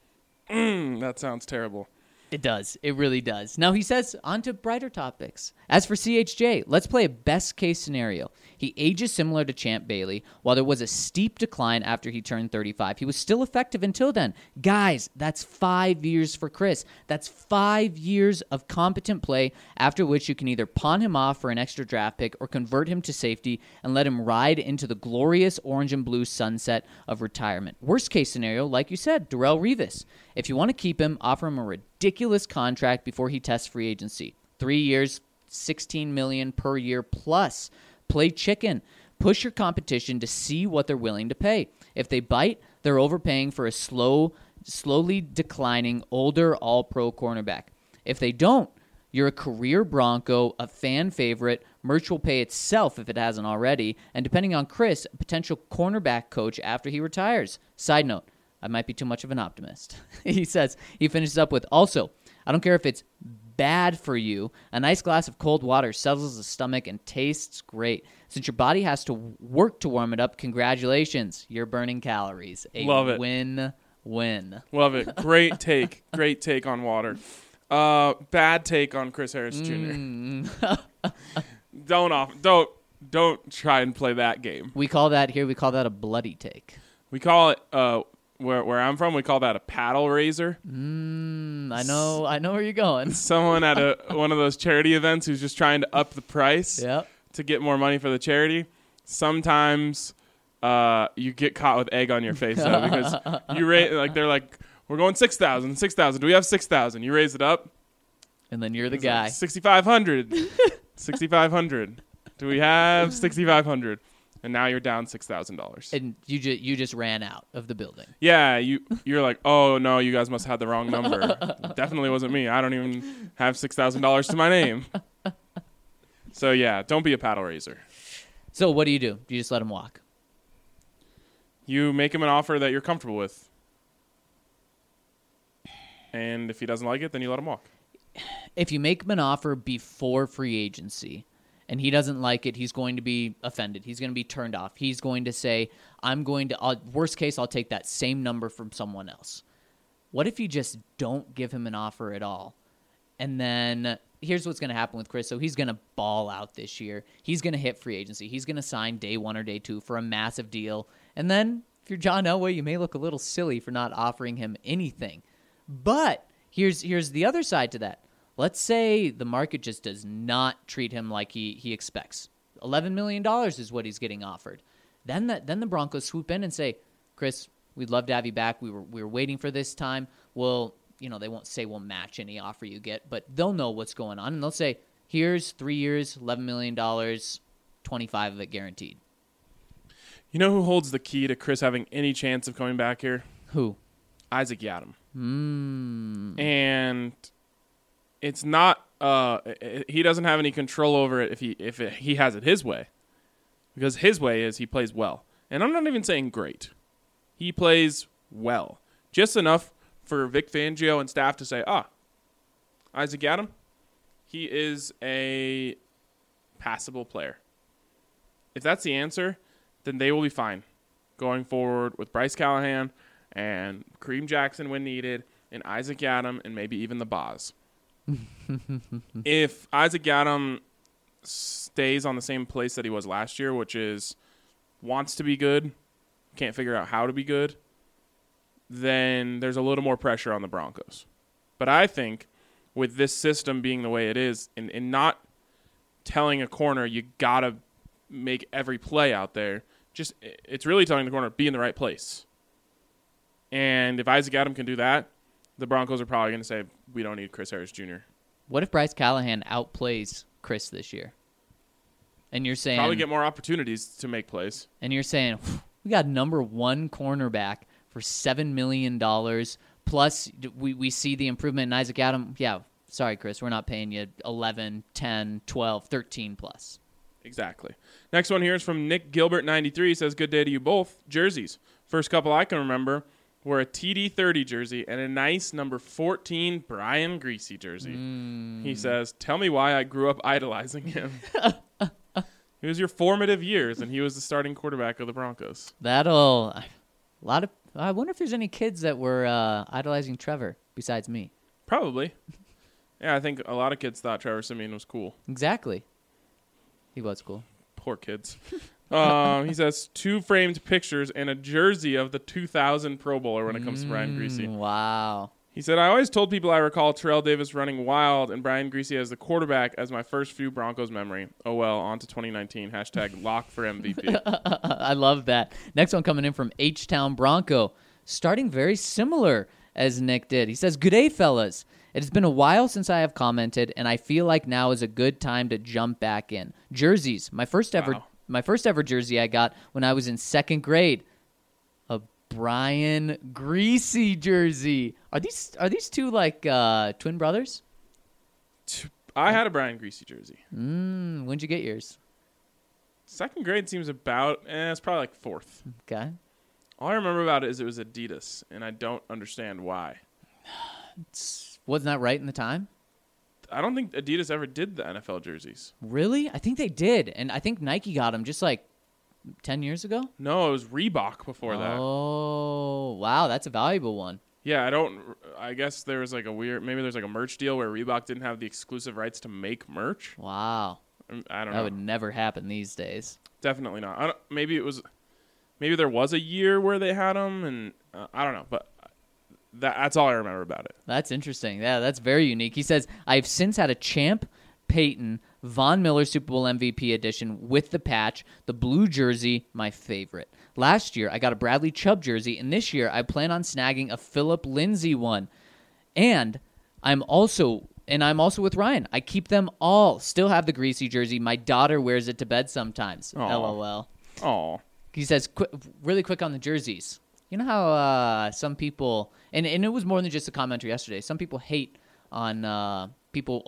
That sounds terrible. It does. It really does. Now, he says, on to brighter topics. As for CHJ, let's play a best-case scenario. He ages similar to Champ Bailey. While there was a steep decline after he turned 35, he was still effective until then. Guys, that's 5 years for Chris. That's 5 years of competent play, after which you can either pawn him off for an extra draft pick or convert him to safety and let him ride into the glorious orange and blue sunset of retirement. Worst-case scenario, like you said, Darrelle Revis. If you want to keep him, offer him a ridiculous contract before he tests free agency. 3 years, $16 million per year plus. Play chicken. Push your competition to see what they're willing to pay. If they bite, they're overpaying for a slowly declining, older all-pro cornerback. If they don't, you're a career Bronco, a fan favorite. Merch will pay itself if it hasn't already. And depending on Chris, a potential cornerback coach after he retires. Side note, I might be too much of an optimist. He finishes up with, also, I don't care if it's bad for you. A nice glass of cold water settles the stomach and tastes great. Since your body has to work to warm it up, congratulations. You're burning calories. Love it. Win-win. Love it. Great take. Great take on water. Bad take on Chris Harris Jr. Don't try and play that game. We call that a bloody take. We call it where I'm from, we call that a paddle raiser. I know where you're going. Someone at one of those charity events who's just trying to up the price to get more money for the charity. Sometimes you get caught with egg on your face though, because you they're like, we're going 6,000. Do we have 6,000? You raise it up, and then you're the guy. Like, 6,500. 6,500. Do we have 6,500? And now you're down $6,000. And you just ran out of the building. Yeah, you're like, oh no, you guys must have had the wrong number. Definitely wasn't me. I don't even have $6,000 to my name. So yeah, don't be a paddle raiser. So what do? You just let him walk? You make him an offer that you're comfortable with. And if he doesn't like it, then you let him walk. If you make him an offer before free agency and he doesn't like it, he's going to be offended. He's going to be turned off. He's going to say, worst case, I'll take that same number from someone else. What if you just don't give him an offer at all? And then here's what's going to happen with Chris. So he's going to ball out this year. He's going to hit free agency. He's going to sign day 1 or day 2 for a massive deal. And then if you're John Elway, you may look a little silly for not offering him anything. But here's the other side to that. Let's say the market just does not treat him like he expects. $11 million is what he's getting offered. Then the Broncos swoop in and say, Chris, we'd love to have you back. We were waiting for this time. Well, they won't say we'll match any offer you get, but they'll know what's going on. And they'll say, here's 3 years, $11 million, 25 of it guaranteed. You know who holds the key to Chris having any chance of coming back here? Who? Isaac Yiadom. And it's not he doesn't have any control over it if he has it his way, because his way is he plays well, and I'm not even saying great. He plays well, just enough for Vic Fangio and staff to say, Isaac Yiadom, he is a passable player. If that's the answer, then they will be fine going forward with Bryce Callahan and Kareem Jackson when needed, and Isaac Yiadom, and maybe even the Boz. If Isaac Yiadom stays on the same place that he was last year, which is wants to be good, can't figure out how to be good, then there's a little more pressure on the Broncos. But I think with this system being the way it is, and not telling a corner you got to make every play out there, it's really telling the corner be in the right place. And if Isaac Adam can do that, the Broncos are probably going to say, we don't need Chris Harris Jr. What if Bryce Callahan outplays Chris this year? And you're saying Probably get more opportunities to make plays. And you're saying we got number one cornerback for $7 million. Plus, we see the improvement in Isaac Adam. Yeah, sorry, Chris, we're not paying you 11, 10, 12, 13 plus. Exactly. Next one here is from Nick Gilbert 93. He says, good day to you both. Jerseys. First couple I can remember were a TD30 jersey and a nice number 14 Brian Greasy jersey. He says, tell me why I grew up idolizing him. It was your formative years, and he was the starting quarterback of the Broncos. I wonder if there's any kids that were idolizing Trevor besides me. Probably. Yeah, I think a lot of kids thought Trevor Siemian was cool. Exactly. He was cool. Poor kids. He says 2 framed pictures and a jersey of the 2000 Pro Bowler when it comes to Brian Greasy. Wow. He said, I always told people I recall Terrell Davis running wild and Brian Greasy as the quarterback as my first few Broncos memory. Oh, well, on to 2019. # lock for MVP. I love that. Next one coming in from H-Town Bronco. Starting very similar as Nick did. He says, good day, fellas. It has been a while since I have commented, and I feel like now is a good time to jump back in. Jerseys. My first ever jersey I got when I was in 2nd grade. A Brian Greasy jersey. Are these two like twin brothers? I had a Brian Greasy jersey. When'd you get yours? 2nd grade seems about, it's probably like 4th. Okay. All I remember about it is it was Adidas, and I don't understand why. Wasn't that right in the time? I don't think Adidas ever did the NFL jerseys. Really? I think they did, and I think Nike got them just like 10 years ago? No, it was Reebok before that. Oh, wow, that's a valuable one. Yeah, I guess there was like maybe there's like a merch deal where Reebok didn't have the exclusive rights to make merch. Wow. I don't know. That would never happen these days. Definitely not. Maybe there was a year where they had them, and I don't know, but that's all I remember about it. That's interesting. Yeah, that's very unique. He says, I've since had a Champ Peyton Von Miller Super Bowl MVP edition with the patch, the blue jersey, my favorite. Last year, I got a Bradley Chubb jersey, and this year, I plan on snagging a Phillip Lindsay one. And I'm also with Ryan. I keep them all. Still have the Greasy jersey. My daughter wears it to bed sometimes. Aww. LOL. Oh. He says, really quick on the jerseys. You know how some people, and it was more than just a commenter yesterday, some people hate on people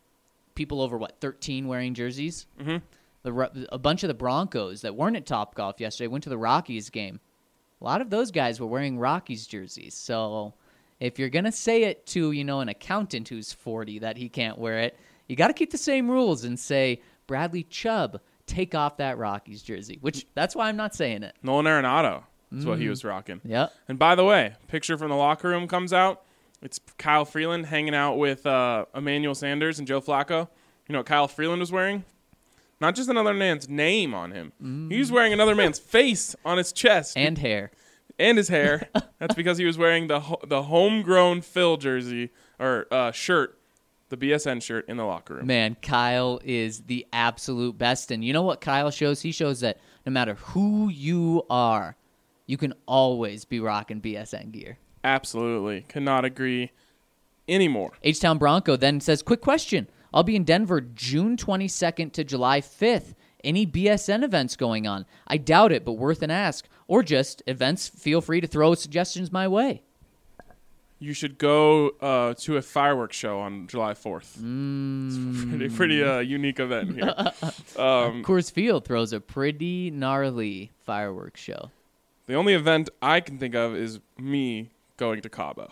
over, 13 wearing jerseys? Mm-hmm. A bunch of the Broncos that weren't at Topgolf yesterday went to the Rockies game. A lot of those guys were wearing Rockies jerseys. So if you're going to say it to, an accountant who's 40 that he can't wear it, you got to keep the same rules and say, Bradley Chubb, take off that Rockies jersey, which that's why I'm not saying it. Nolan Arenado is what he was rocking. Yep. And by the way, picture from the locker room comes out. It's Kyle Freeland hanging out with Emmanuel Sanders and Joe Flacco. You know what Kyle Freeland was wearing? Not just another man's name on him. He was wearing another man's face on his chest. And hair. And his hair. That's because he was wearing the homegrown Phil jersey or shirt, the BSN shirt in the locker room. Man, Kyle is the absolute best. And you know what Kyle shows? He shows that no matter who you are, you can always be rocking BSN gear. Absolutely. Cannot agree anymore. H-Town Bronco then says, quick question. I'll be in Denver June 22nd to July 5th. Any BSN events going on? I doubt it, but worth an ask. Or just events, feel free to throw suggestions my way. You should go to a fireworks show on July 4th. It's a pretty unique event here. Coors Field throws a pretty gnarly fireworks show. The only event I can think of is me going to Cabo.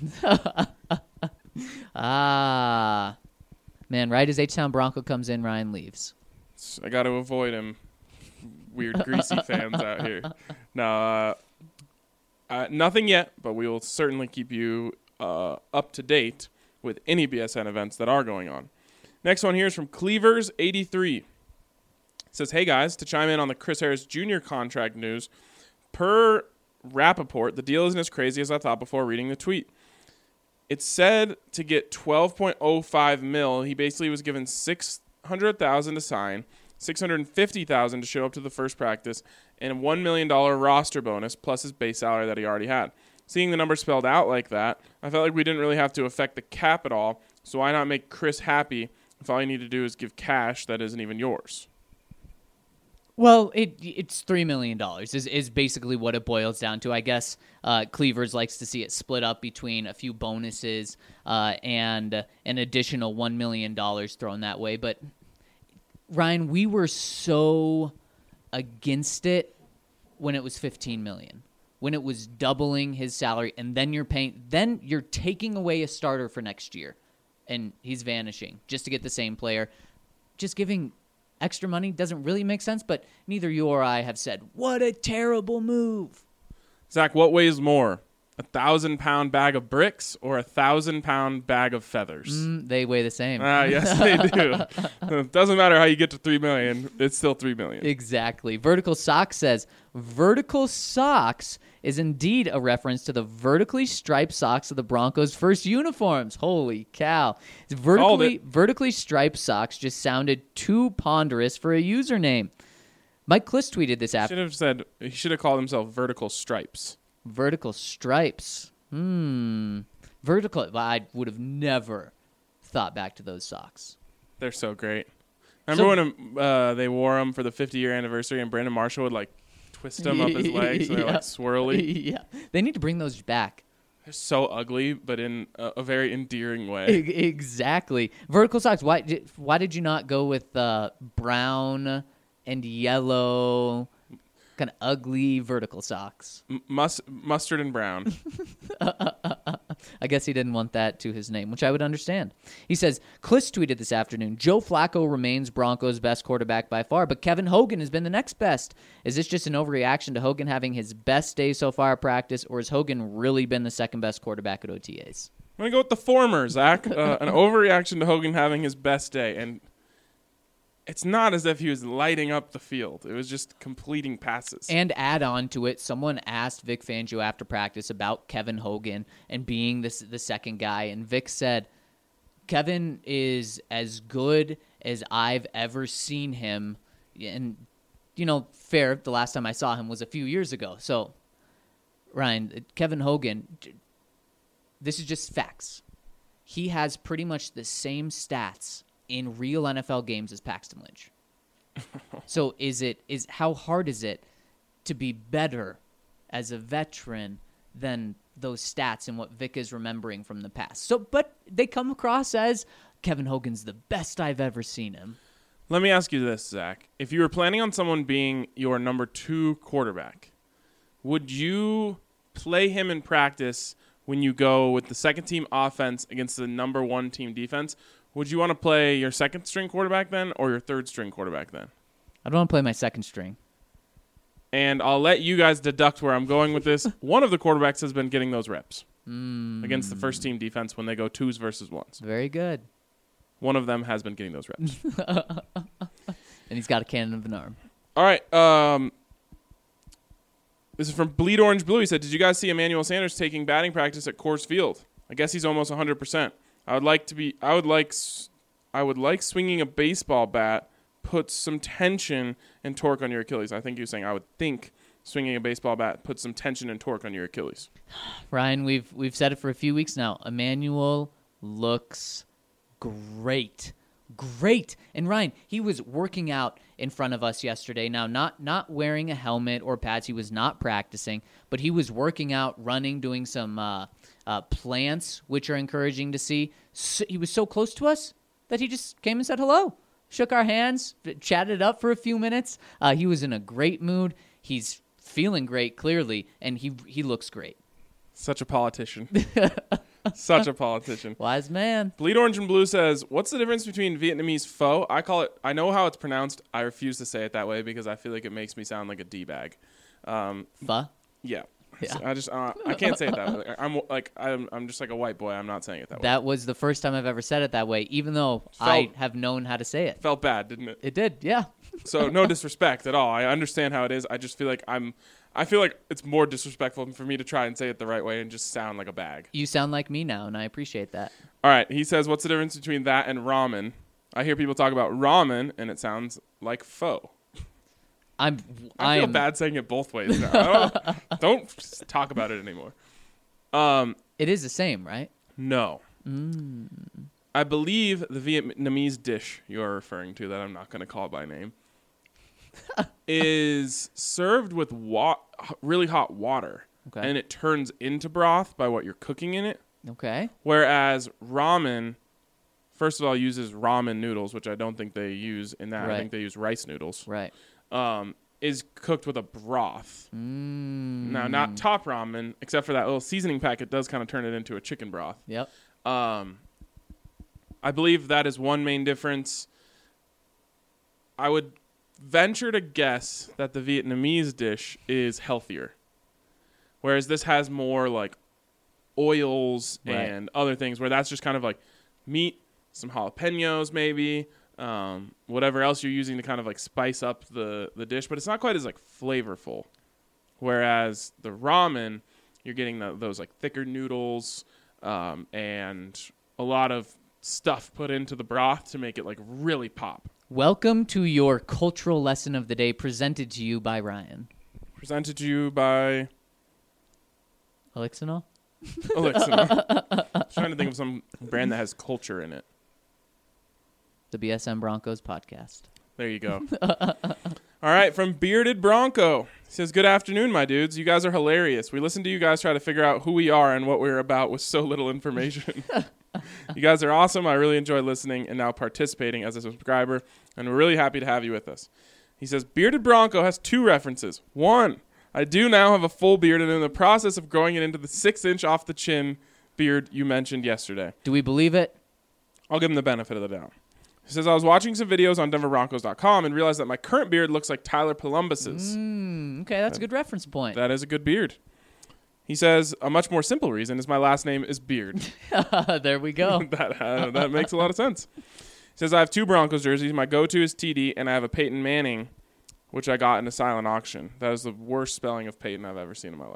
Man, right as H-Town Bronco comes in, Ryan leaves. I got to avoid him. Weird, greasy fans out here. No, nothing yet, but we will certainly keep you up to date with any BSN events that are going on. Next one here is from Cleavers83. It says, hey guys, to chime in on the Chris Harris Jr. contract news, per Rappaport, the deal isn't as crazy as I thought before reading the tweet. It's said to get $12.05 million. He basically was given $600,000 to sign, $650,000 to show up to the first practice, and a $1 million roster bonus plus his base salary that he already had. Seeing the number spelled out like that, I felt like we didn't really have to affect the cap at all, so why not make Chris happy if all you need to do is give cash that isn't even yours? Well, it's $3 million is basically what it boils down to. I guess Cleavers likes to see it split up between a few bonuses and an additional $1 million thrown that way. But, Ryan, we were so against it when it was $15 million, when it was doubling his salary, and then you're taking away a starter for next year, and he's vanishing just to get the same player. Just giving extra money doesn't really make sense, but neither you or I have said, what a terrible move. Zach, what weighs more, a 1,000-pound bag of bricks or a 1,000-pound bag of feathers? They weigh the same. Yes, they do. It doesn't matter how you get to $3 million. It's still $3 million. Exactly. Vertical Socks says, vertical socks is indeed a reference to the vertically striped socks of the Broncos' first uniforms. Holy cow. Vertically striped socks just sounded too ponderous for a username. Mike Kliss tweeted this after. He should have called himself Vertical Stripes. Vertical stripes. Vertical. I would have never thought back to those socks. They're so great. Remember when they wore them for the 50-year anniversary and Brandon Marshall would like twist them up his legs so they're like swirly? Yeah. They need to bring those back. They're so ugly, but in a very endearing way. Exactly. Vertical socks. Why did you not go with brown and yellow, kind of ugly vertical socks? Mustard and brown. I guess he didn't want that to his name, which I would understand. He says, Kliss tweeted this afternoon, Joe Flacco remains Broncos' best quarterback by far, but Kevin Hogan has been the next best. Is this just an overreaction to Hogan having his best day so far at practice, or has Hogan really been the second best quarterback at OTAs? I'm going to go with the former, Zach. An overreaction to Hogan having his best day. And it's not as if he was lighting up the field. It was just completing passes. And add on to it, someone asked Vic Fangio after practice about Kevin Hogan and being the second guy. And Vic said, Kevin is as good as I've ever seen him. And, fair, the last time I saw him was a few years ago. So, Ryan, Kevin Hogan, this is just facts. He has pretty much the same stats in real NFL games as Paxton Lynch. So how hard is it to be better as a veteran than those stats and what Vic is remembering from the past? So, but they come across as Kevin Hogan's the best I've ever seen him. Let me ask you this, Zach. If you were planning on someone being your number 2 quarterback, would you play him in practice when you go with the second team offense against the number 1 team defense? Would you want to play your second string quarterback then or your third string quarterback then? I don't want to play my second string. And I'll let you guys deduct where I'm going with this. One of the quarterbacks has been getting those reps against the first team defense when they go 2s versus 1s. Very good. One of them has been getting those reps. And he's got a cannon of an arm. All right. This is from Bleed Orange Blue. He said, did you guys see Emmanuel Sanders taking batting practice at Coors Field? I guess he's almost 100%. I would like swinging a baseball bat puts some tension and torque on your Achilles. I think he was saying I would think swinging a baseball bat puts some tension and torque on your Achilles. Ryan, we've said it for a few weeks now. Emmanuel looks great. And Ryan, he was working out in front of us yesterday. Now, not wearing a helmet or pads. He was not practicing, but he was working out, running, doing some plants, which are encouraging to see. So, he was so close to us that he just came and said hello, shook our hands, chatted up for a few minutes. He was in a great mood. He's feeling great, clearly, and he looks great. Such a politician. Such a politician. Wise man. Bleed Orange and Blue says, what's the difference between Vietnamese pho? I know how it's pronounced. I refuse to say it that way because I feel like it makes me sound like a D-bag. Pho? Yeah. Yeah. I can't say it that way. I'm just like a white boy. I'm not saying it that way. That was the first time I've ever said it that way, even though I have known how to say it. Felt bad, didn't it? It did, yeah. So no disrespect at all. I understand how it is. I just feel like I feel like it's more disrespectful for me to try and say it the right way and just sound like a bag. You sound like me now, and I appreciate that. All right. He says, what's the difference between that and ramen? I hear people talk about ramen, and it sounds like pho. I feel bad saying it both ways now. Don't talk about it anymore. It is the same, right? No. I believe the Vietnamese dish you're referring to, that I'm not going to call by name, is served with really hot water. Okay. And it turns into broth by what you're cooking in it. Okay. Whereas ramen, first of all, uses ramen noodles, which I don't think they use in that. Right. I think they use rice noodles. Right. Is cooked with a broth. Now, not top ramen, except for that little seasoning pack. It does kind of turn it into a chicken broth. Yep. I believe that is one main difference. I would venture to guess that the Vietnamese dish is healthier, whereas this has more like oils and other things, where that's just kind of like meat, some jalapenos maybe, whatever else you're using to kind of like spice up the dish, but it's not quite as like flavorful. Whereas the ramen, you're getting those like thicker noodles and a lot of stuff put into the broth to make it like really pop. Welcome to your cultural lesson of the day, presented to you by Ryan. Presented to you by Elixinol? Elixinol. Trying to think of some brand that has culture in it. The BSM Broncos podcast. There you go. All right, from Bearded Bronco. He says, good afternoon, my dudes. You guys are hilarious. We listen to you guys try to figure out who we are and what we're about with so little information. You guys are awesome. I really enjoy listening and now participating as a subscriber, and we're really happy to have you with us. He says, Bearded Bronco has 2 references. 1, I do now have a full beard and am in the process of growing it into the 6-inch off the chin beard you mentioned yesterday. Do we believe it? I'll give him the benefit of the doubt. He says, I was watching some videos on DenverBroncos.com and realized that my current beard looks like Tyler Columbus's. Okay, that's a good reference point. That is a good beard. He says, a much more simple reason is my last name is Beard. There we go. That makes a lot of sense. He says, I have 2 Broncos jerseys. My go-to is TD, and I have a Peyton Manning, which I got in a silent auction. That is the worst spelling of Peyton I've ever seen in my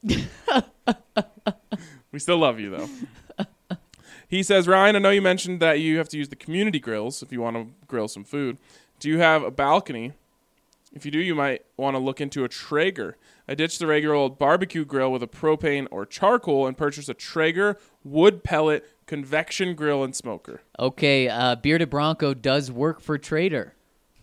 life. We still love you, though. He says, Ryan, I know you mentioned that you have to use the community grills if you want to grill some food. Do you have a balcony? If you do, you might want to look into a Traeger. I ditched the regular old barbecue grill with a propane or charcoal and purchased a Traeger wood pellet convection grill and smoker. Okay, Bearded Bronco does work for Traeger.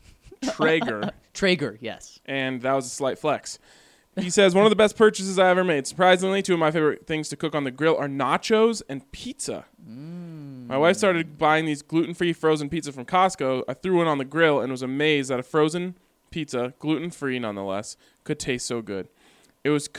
Traeger, yes. And that was a slight flex. He says, one of the best purchases I ever made. Surprisingly, 2 of my favorite things to cook on the grill are nachos and pizza. My wife started buying these gluten-free frozen pizza from Costco. I threw one on the grill and was amazed that a frozen pizza, gluten-free nonetheless, could taste so good. It was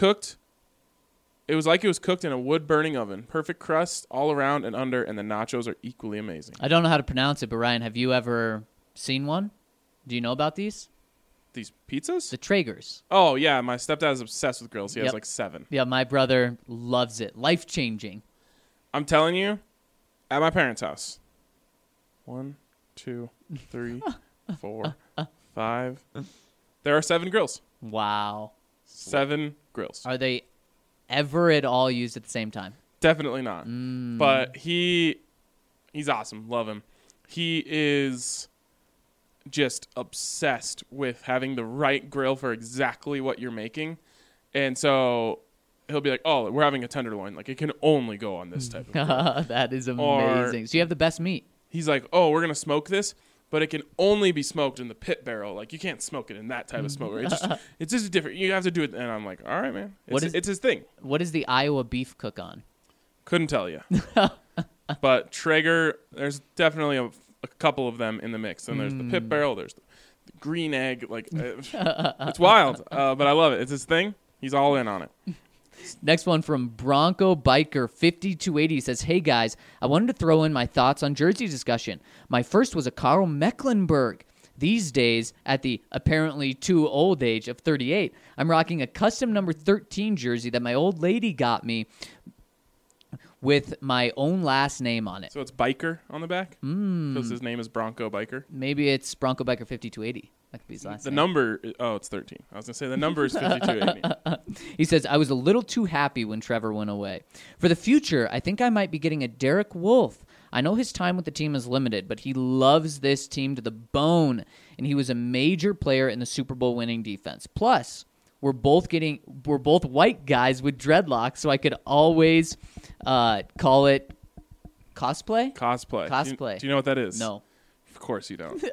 like it was cooked in a wood-burning oven. Perfect crust all around and under, and the nachos are equally amazing. I don't know how to pronounce it, but Ryan, have you ever seen one? Do you know about these? These pizzas? The Traegers. Oh, yeah. My stepdad is obsessed with grills. He has like 7. Yeah, my brother loves it. Life-changing. I'm telling you, at my parents' house, 1, 2, 3, 4, 5. There are 7 grills. Wow. 7 grills. Are they ever at all used at the same time? Definitely not. But he's awesome. Love him. He is just obsessed with having the right grill for exactly what you're making. And so he'll be like, oh, we're having a tenderloin. Like, it can only go on this type of grill. That is amazing. So you have the best meat. He's like, oh, we're going to smoke this, but it can only be smoked in the pit barrel. Like, you can't smoke it in that type of smoker. It's just different. You have to do it. And I'm like, all right, man. It's his thing. What does the Iowa beef cook on? Couldn't tell you. But Traeger, there's definitely a couple of them in the mix. And there's the pit barrel. There's the green egg. Like, it's wild. But I love it. It's his thing. He's all in on it. Next one from Bronco Biker 5280 says, hey guys, I wanted to throw in my thoughts on jersey discussion. My first was a Karl Mecklenburg. These days, at the apparently too old age of 38, I'm rocking a custom number 13 jersey that my old lady got me with my own last name on it. So it's Biker on the back? Because his name is Bronco Biker. Maybe it's Bronco Biker 5280. That could be his last The name. number, it's 13. I was going to say the number is 5280. He says, I was a little too happy when Trevor went away. For the future, I think I might be getting a Derek Wolfe. I know his time with the team is limited, but he loves this team to the bone, and he was a major player in the Super Bowl winning defense. Plus, we're both white guys with dreadlocks, so I could always call it cosplay. Do you know what that is? No. Of course you don't.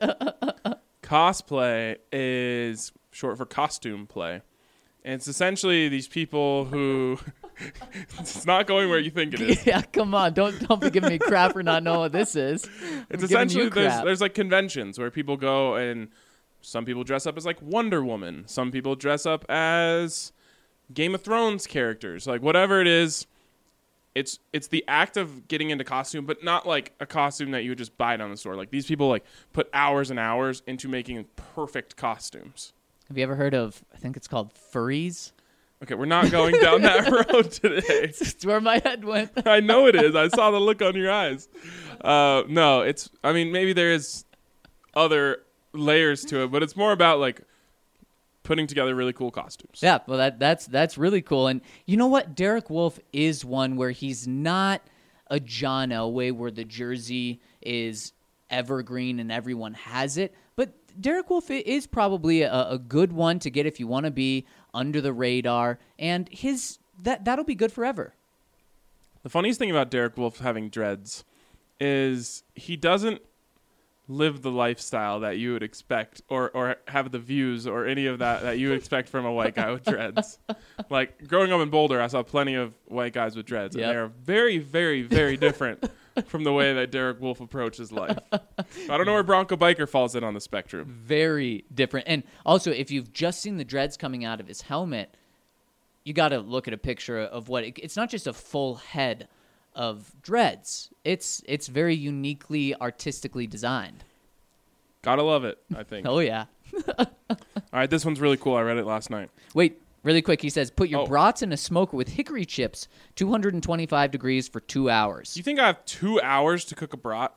Cosplay is short for costume play. And it's essentially these people who it's not going where you think it is. Yeah, come on. Don't be giving me crap for not knowing what this is. It's I'm giving you essentially crap. there's like conventions where people go, and some people dress up as like Wonder Woman. Some people dress up as Game of Thrones characters. Like whatever it is, it's the act of getting into costume, but not like a costume that you would just buy down the store. Like these people like put hours and hours into making perfect costumes. Have you ever heard of, I think it's called furries? Okay, we're not going down that road today. That's where my head went. I know it is. I saw the look on your eyes. No, maybe there is other layers to it, but it's more about like putting together really cool costumes. Yeah, well, that's really cool. And you know what? Derek Wolfe is one where he's not a John Elway where the jersey is evergreen and everyone has it, but Derek Wolfe is probably a good one to get if you want to be under the radar, and that'll be good forever. The funniest thing about Derek Wolfe having dreads is he doesn't live the lifestyle that you would expect or have the views or any of that you would expect from a white guy with dreads. Like growing up in Boulder, I saw plenty of white guys with dreads, and they're very, very, very different from the way that Derek Wolfe approaches life. I don't know where Bronco Biker falls in on the spectrum. Very different. And also, if you've just seen the dreads coming out of his helmet, you got to look at a picture of it's not just a full head of dreads. It's very uniquely artistically designed. Gotta love it, I think. Oh, yeah. All right, this one's really cool. I read it last night. Wait, really quick. He says, put your brats in a smoker with hickory chips, 225 degrees for 2 hours. You think I have 2 hours to cook a brat?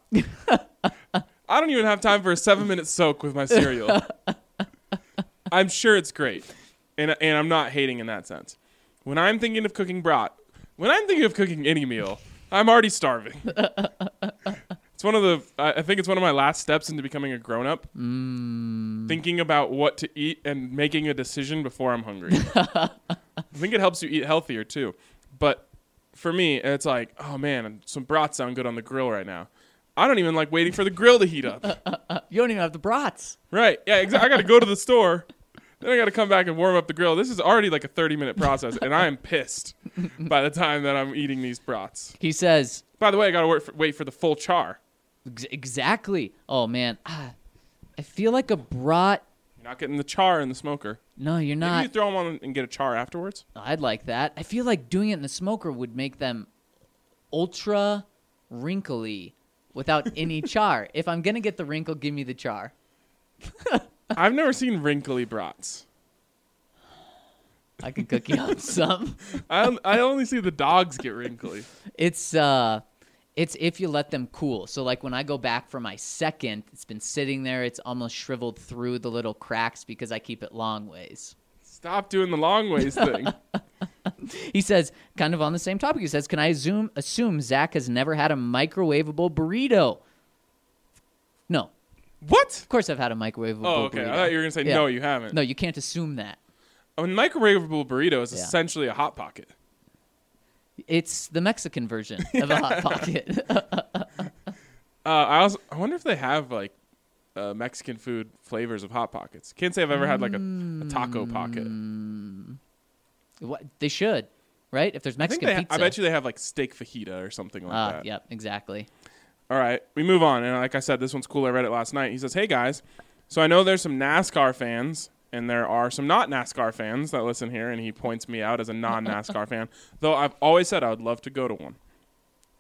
I don't even have time for a 7-minute soak with my cereal. I'm sure it's great, and I'm not hating in that sense. When I'm thinking of cooking brat, when I'm thinking of cooking any meal, I'm already starving. It's I think it's one of my last steps into becoming a grown-up. Thinking about what to eat and making a decision before I'm hungry. I think it helps you eat healthier too. But for me, it's like, oh man, some brats sound good on the grill right now. I don't even like waiting for the grill to heat up. You don't even have the brats. Right. Yeah, exactly. I got to go to the store. Then I got to come back and warm up the grill. This is already like a 30-minute process, and I am pissed by the time that I'm eating these brats. He says... By the way, I got to wait for the full char. Exactly. Oh, man. I feel like a brat... You're not getting the char in the smoker. No, you're not. Maybe you throw them on and get a char afterwards? I'd like that. I feel like doing it in the smoker would make them ultra wrinkly without any char. If I'm going to get the wrinkle, give me the char. I've never seen wrinkly brats. I can cook you up some. I only see the dogs get wrinkly. It's if you let them cool. So like when I go back for my second, it's been sitting there. It's almost shriveled through the little cracks because I keep it long ways. Stop doing the long ways thing. He says, kind of on the same topic, he says, can I assume Zach has never had a microwavable burrito? No. What? Of course I've had a microwavable burrito. Oh, okay. I thought you were going to say, no, you haven't. No, you can't assume that. A microwavable burrito is essentially a Hot Pocket. It's the Mexican version of a Hot Pocket. I wonder if they have like Mexican food flavors of Hot Pockets. Can't say I've ever had like a taco pocket. What they should, right? If there's Mexican pizza, I bet you they have like steak fajita or something like that. Yep, exactly. All right, we move on, and like I said, this one's cool. I read it last night. He says, "Hey guys, so I know there's some NASCAR fans." And there are some not NASCAR fans that listen here, and he points me out as a non-NASCAR fan, though I've always said I would love to go to one.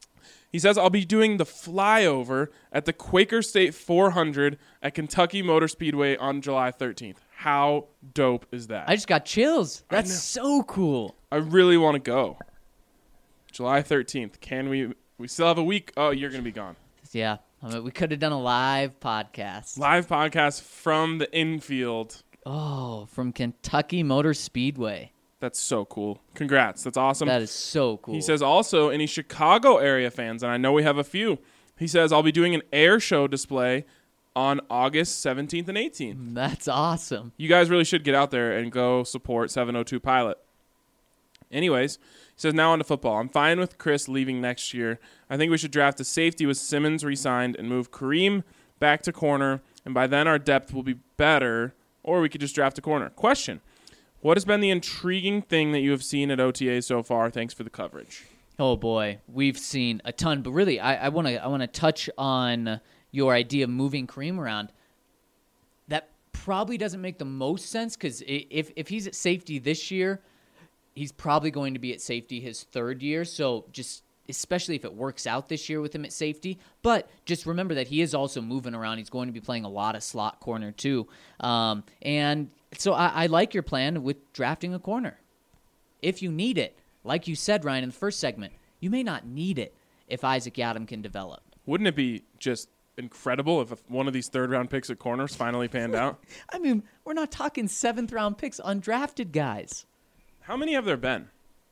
He says, I'll be doing the flyover at the Quaker State 400 at Kentucky Motor Speedway on July 13th. How dope is that? I just got chills. I know. That's so cool. I really want to go. July 13th. Can we? We still have a week. Oh, you're going to be gone. Yeah. I mean, we could have done a live podcast. Live podcast from the infield. Oh, from Kentucky Motor Speedway. That's so cool. Congrats. That's awesome. That is so cool. He says also, any Chicago area fans, and I know we have a few, he says, I'll be doing an air show display on August 17th and 18th. That's awesome. You guys really should get out there and go support 702 Pilot. Anyways, he says, now on to football. I'm fine with Chris leaving next year. I think we should draft a safety with Simmons re-signed and move Kareem back to corner, and by then our depth will be better, or we could just draft a corner. Question. What has been the intriguing thing that you have seen at OTA so far? Thanks for the coverage. Oh boy, we've seen a ton, but really, I want to touch on your idea of moving Kareem around. That probably doesn't make the most sense because if he's at safety this year, he's probably going to be at safety his third year. So just especially if it works out this year with him at safety. But just remember that he is also moving around. He's going to be playing a lot of slot corner too, and. So I like your plan with drafting a corner. If you need it, like you said, Ryan, in the first segment, you may not need it if Isaac Yiadom can develop. Wouldn't it be just incredible if one of these third-round picks at corners finally panned out? I mean, we're not talking seventh-round picks, undrafted guys. How many have there been?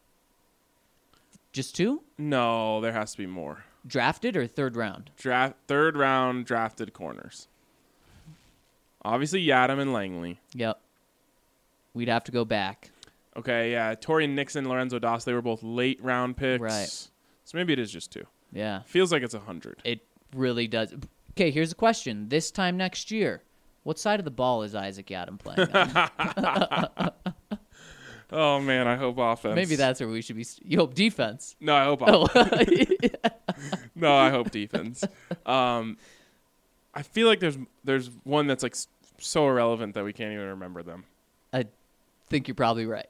Just two? No, there has to be more. Drafted or third round? Third-round drafted corners. Obviously, Yiadom and Langley. Yep. We'd have to go back. Okay, yeah. Torian Nixon, Lorenzo Doss, they were both late-round picks. Right. So maybe it is just two. Yeah. Feels like it's 100. It really does. Okay, here's a question. This time next year, what side of the ball is Isaac Yiadom playing on? Oh, man, I hope offense. Maybe that's where we should be. You hope defense. No, I hope Oh. offense. No, I hope defense. I feel like there's one that's like so irrelevant that we can't even remember them. I think you're probably right.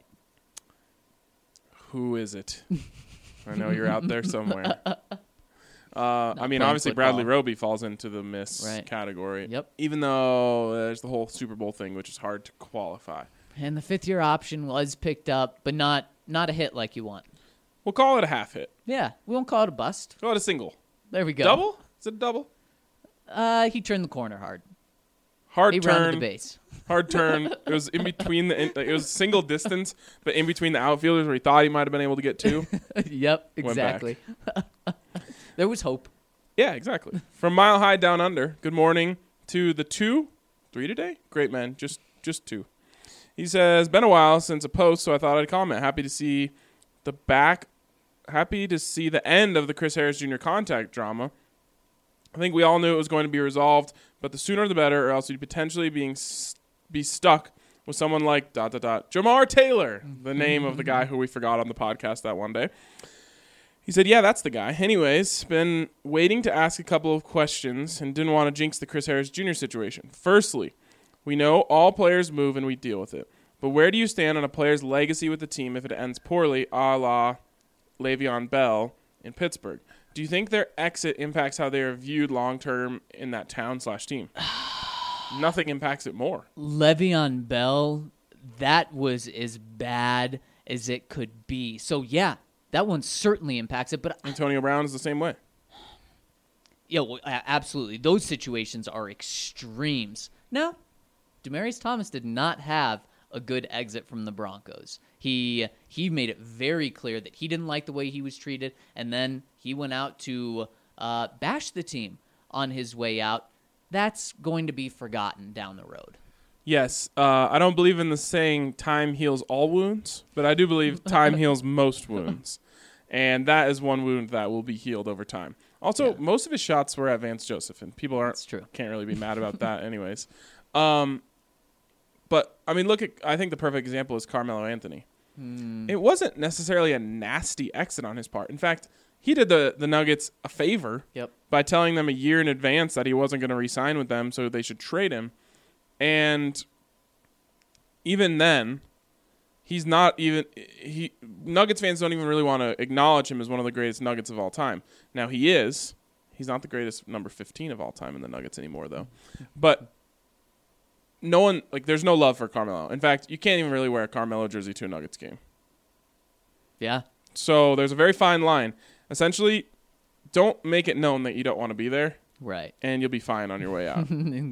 Who is it? I know you're out there somewhere. I mean, playing obviously Bradley football. Roby falls into the miss Right. category. Yep. Even though there's the whole Super Bowl thing, which is hard to qualify. And the fifth-year option was picked up, but not a hit like you want. We'll call it a half hit. Yeah, we won't call it a bust. Call it a single. There we go. Double? Is it a double? He turned the corner hard. Hard He rounded the turn. base. Hard turn. It was in between it was single distance, but in between the outfielders where he thought he might have been able to get to. Yep, Went exactly. There was hope. Yeah, exactly. From Mile High Down Under, good morning to the 3 today? Great, man. Just 2. He says, been a while since a post, so I thought I'd comment. Happy to see the end of the Chris Harris Jr. contact drama. I think we all knew it was going to be resolved, but the sooner the better, or else you'd potentially be stuck with someone like ... Jamar Taylor, the name of the guy who we forgot on the podcast that one day. He said, yeah, that's the guy. Anyways, been waiting to ask a couple of questions and didn't want to jinx the Chris Harris Jr. situation. Firstly, we know all players move and we deal with it. But where do you stand on a player's legacy with the team if it ends poorly, a la Le'Veon Bell in Pittsburgh? Do you think their exit impacts how they are viewed long-term in that town/team? Nothing impacts it more. Le'Veon Bell, that was as bad as it could be. So, yeah, that one certainly impacts it. But Antonio Brown is the same way. yeah, well, absolutely. Those situations are extremes. Now, Demaryius Thomas did not have a good exit from the Broncos. He made it very clear that he didn't like the way he was treated, and then he went out to bash the team on his way out. That's going to be forgotten down the road. Yes, I don't believe in the saying time heals all wounds, but I do believe time heals most wounds. And that is one wound that will be healed over time. Also, Yeah. most of his shots were at Vance Joseph, and people That's true. can't really be mad about that anyways. But, I mean, I think the perfect example is Carmelo Anthony. It wasn't necessarily a nasty exit on his part. In fact, he did the Nuggets a favor Yep. by telling them a year in advance that he wasn't going to re-sign with them, so they should trade him. And even then, he's not even Nuggets fans don't even really want to acknowledge him as one of the greatest Nuggets of all time. Now he is. He's not the greatest number 15 of all time in the Nuggets anymore though. But no one there's no love for Carmelo. In fact, you can't even really wear a Carmelo jersey to a Nuggets game. Yeah. So there's a very fine line. Essentially, don't make it known that you don't want to be there. Right. And you'll be fine on your way out.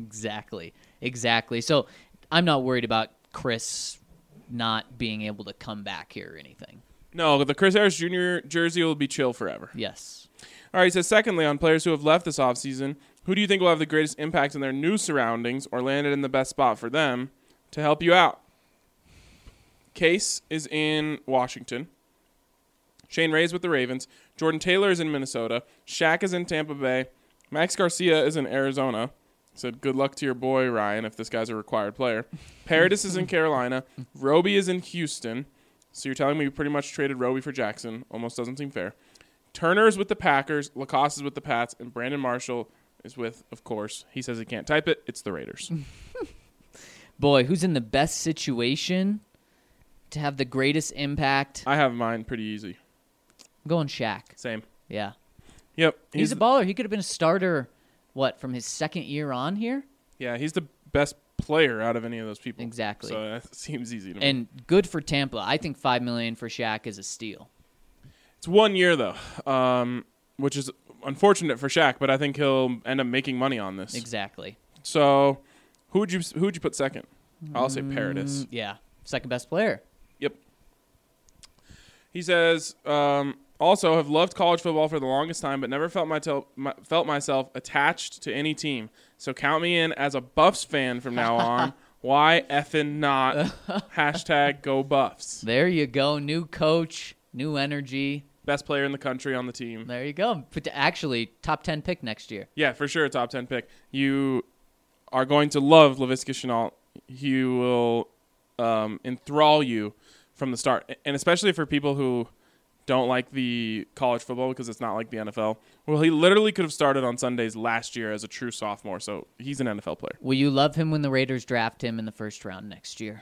Exactly. So I'm not worried about Chris not being able to come back here or anything. No, the Chris Harris Jr. jersey will be chill forever. Yes. All right, he says, secondly, on players who have left this offseason, who do you think will have the greatest impact in their new surroundings or landed in the best spot for them to help you out? Case is in Washington. Shane Ray's with the Ravens. Jordan Taylor is in Minnesota. Shaq is in Tampa Bay. Max Garcia is in Arizona. Said, good luck to your boy, Ryan, if this guy's a required player. Paradis is in Carolina. Roby is in Houston. So you're telling me you pretty much traded Roby for Jackson. Almost doesn't seem fair. Turner is with the Packers. Lacoste is with the Pats. And Brandon Marshall is with, of course, he says he can't type it. It's the Raiders. Boy, who's in the best situation to have the greatest impact? I have mine pretty easy. I'm going Shaq. Same. Yeah. Yep. He's a baller. He could have been a starter, from his second year on here? Yeah, he's the best player out of any of those people. Exactly. So that seems easy to me. And good for Tampa. I think $5 million for Shaq is a steal. It's 1 year, though, which is unfortunate for Shaq, but I think he'll end up making money on this. Exactly. So who would you put second? I'll say Paradis. Yeah. Second best player. Yep. He says, also have loved college football for the longest time, but never felt myself attached to any team. So count me in as a Buffs fan from now on. Why effing not? Hashtag go Buffs. There you go. New coach, new energy. Best player in the country on the team. There you go. Actually, top 10 pick next year. Yeah, for sure, top 10 pick. You are going to love Laviska Shenault. He will enthrall you from the start, and especially for people who don't like the college football because it's not like the NFL. Well, he literally could have started on Sundays last year as a true sophomore, so he's an NFL player. Will you love him when the Raiders draft him in the first round next year?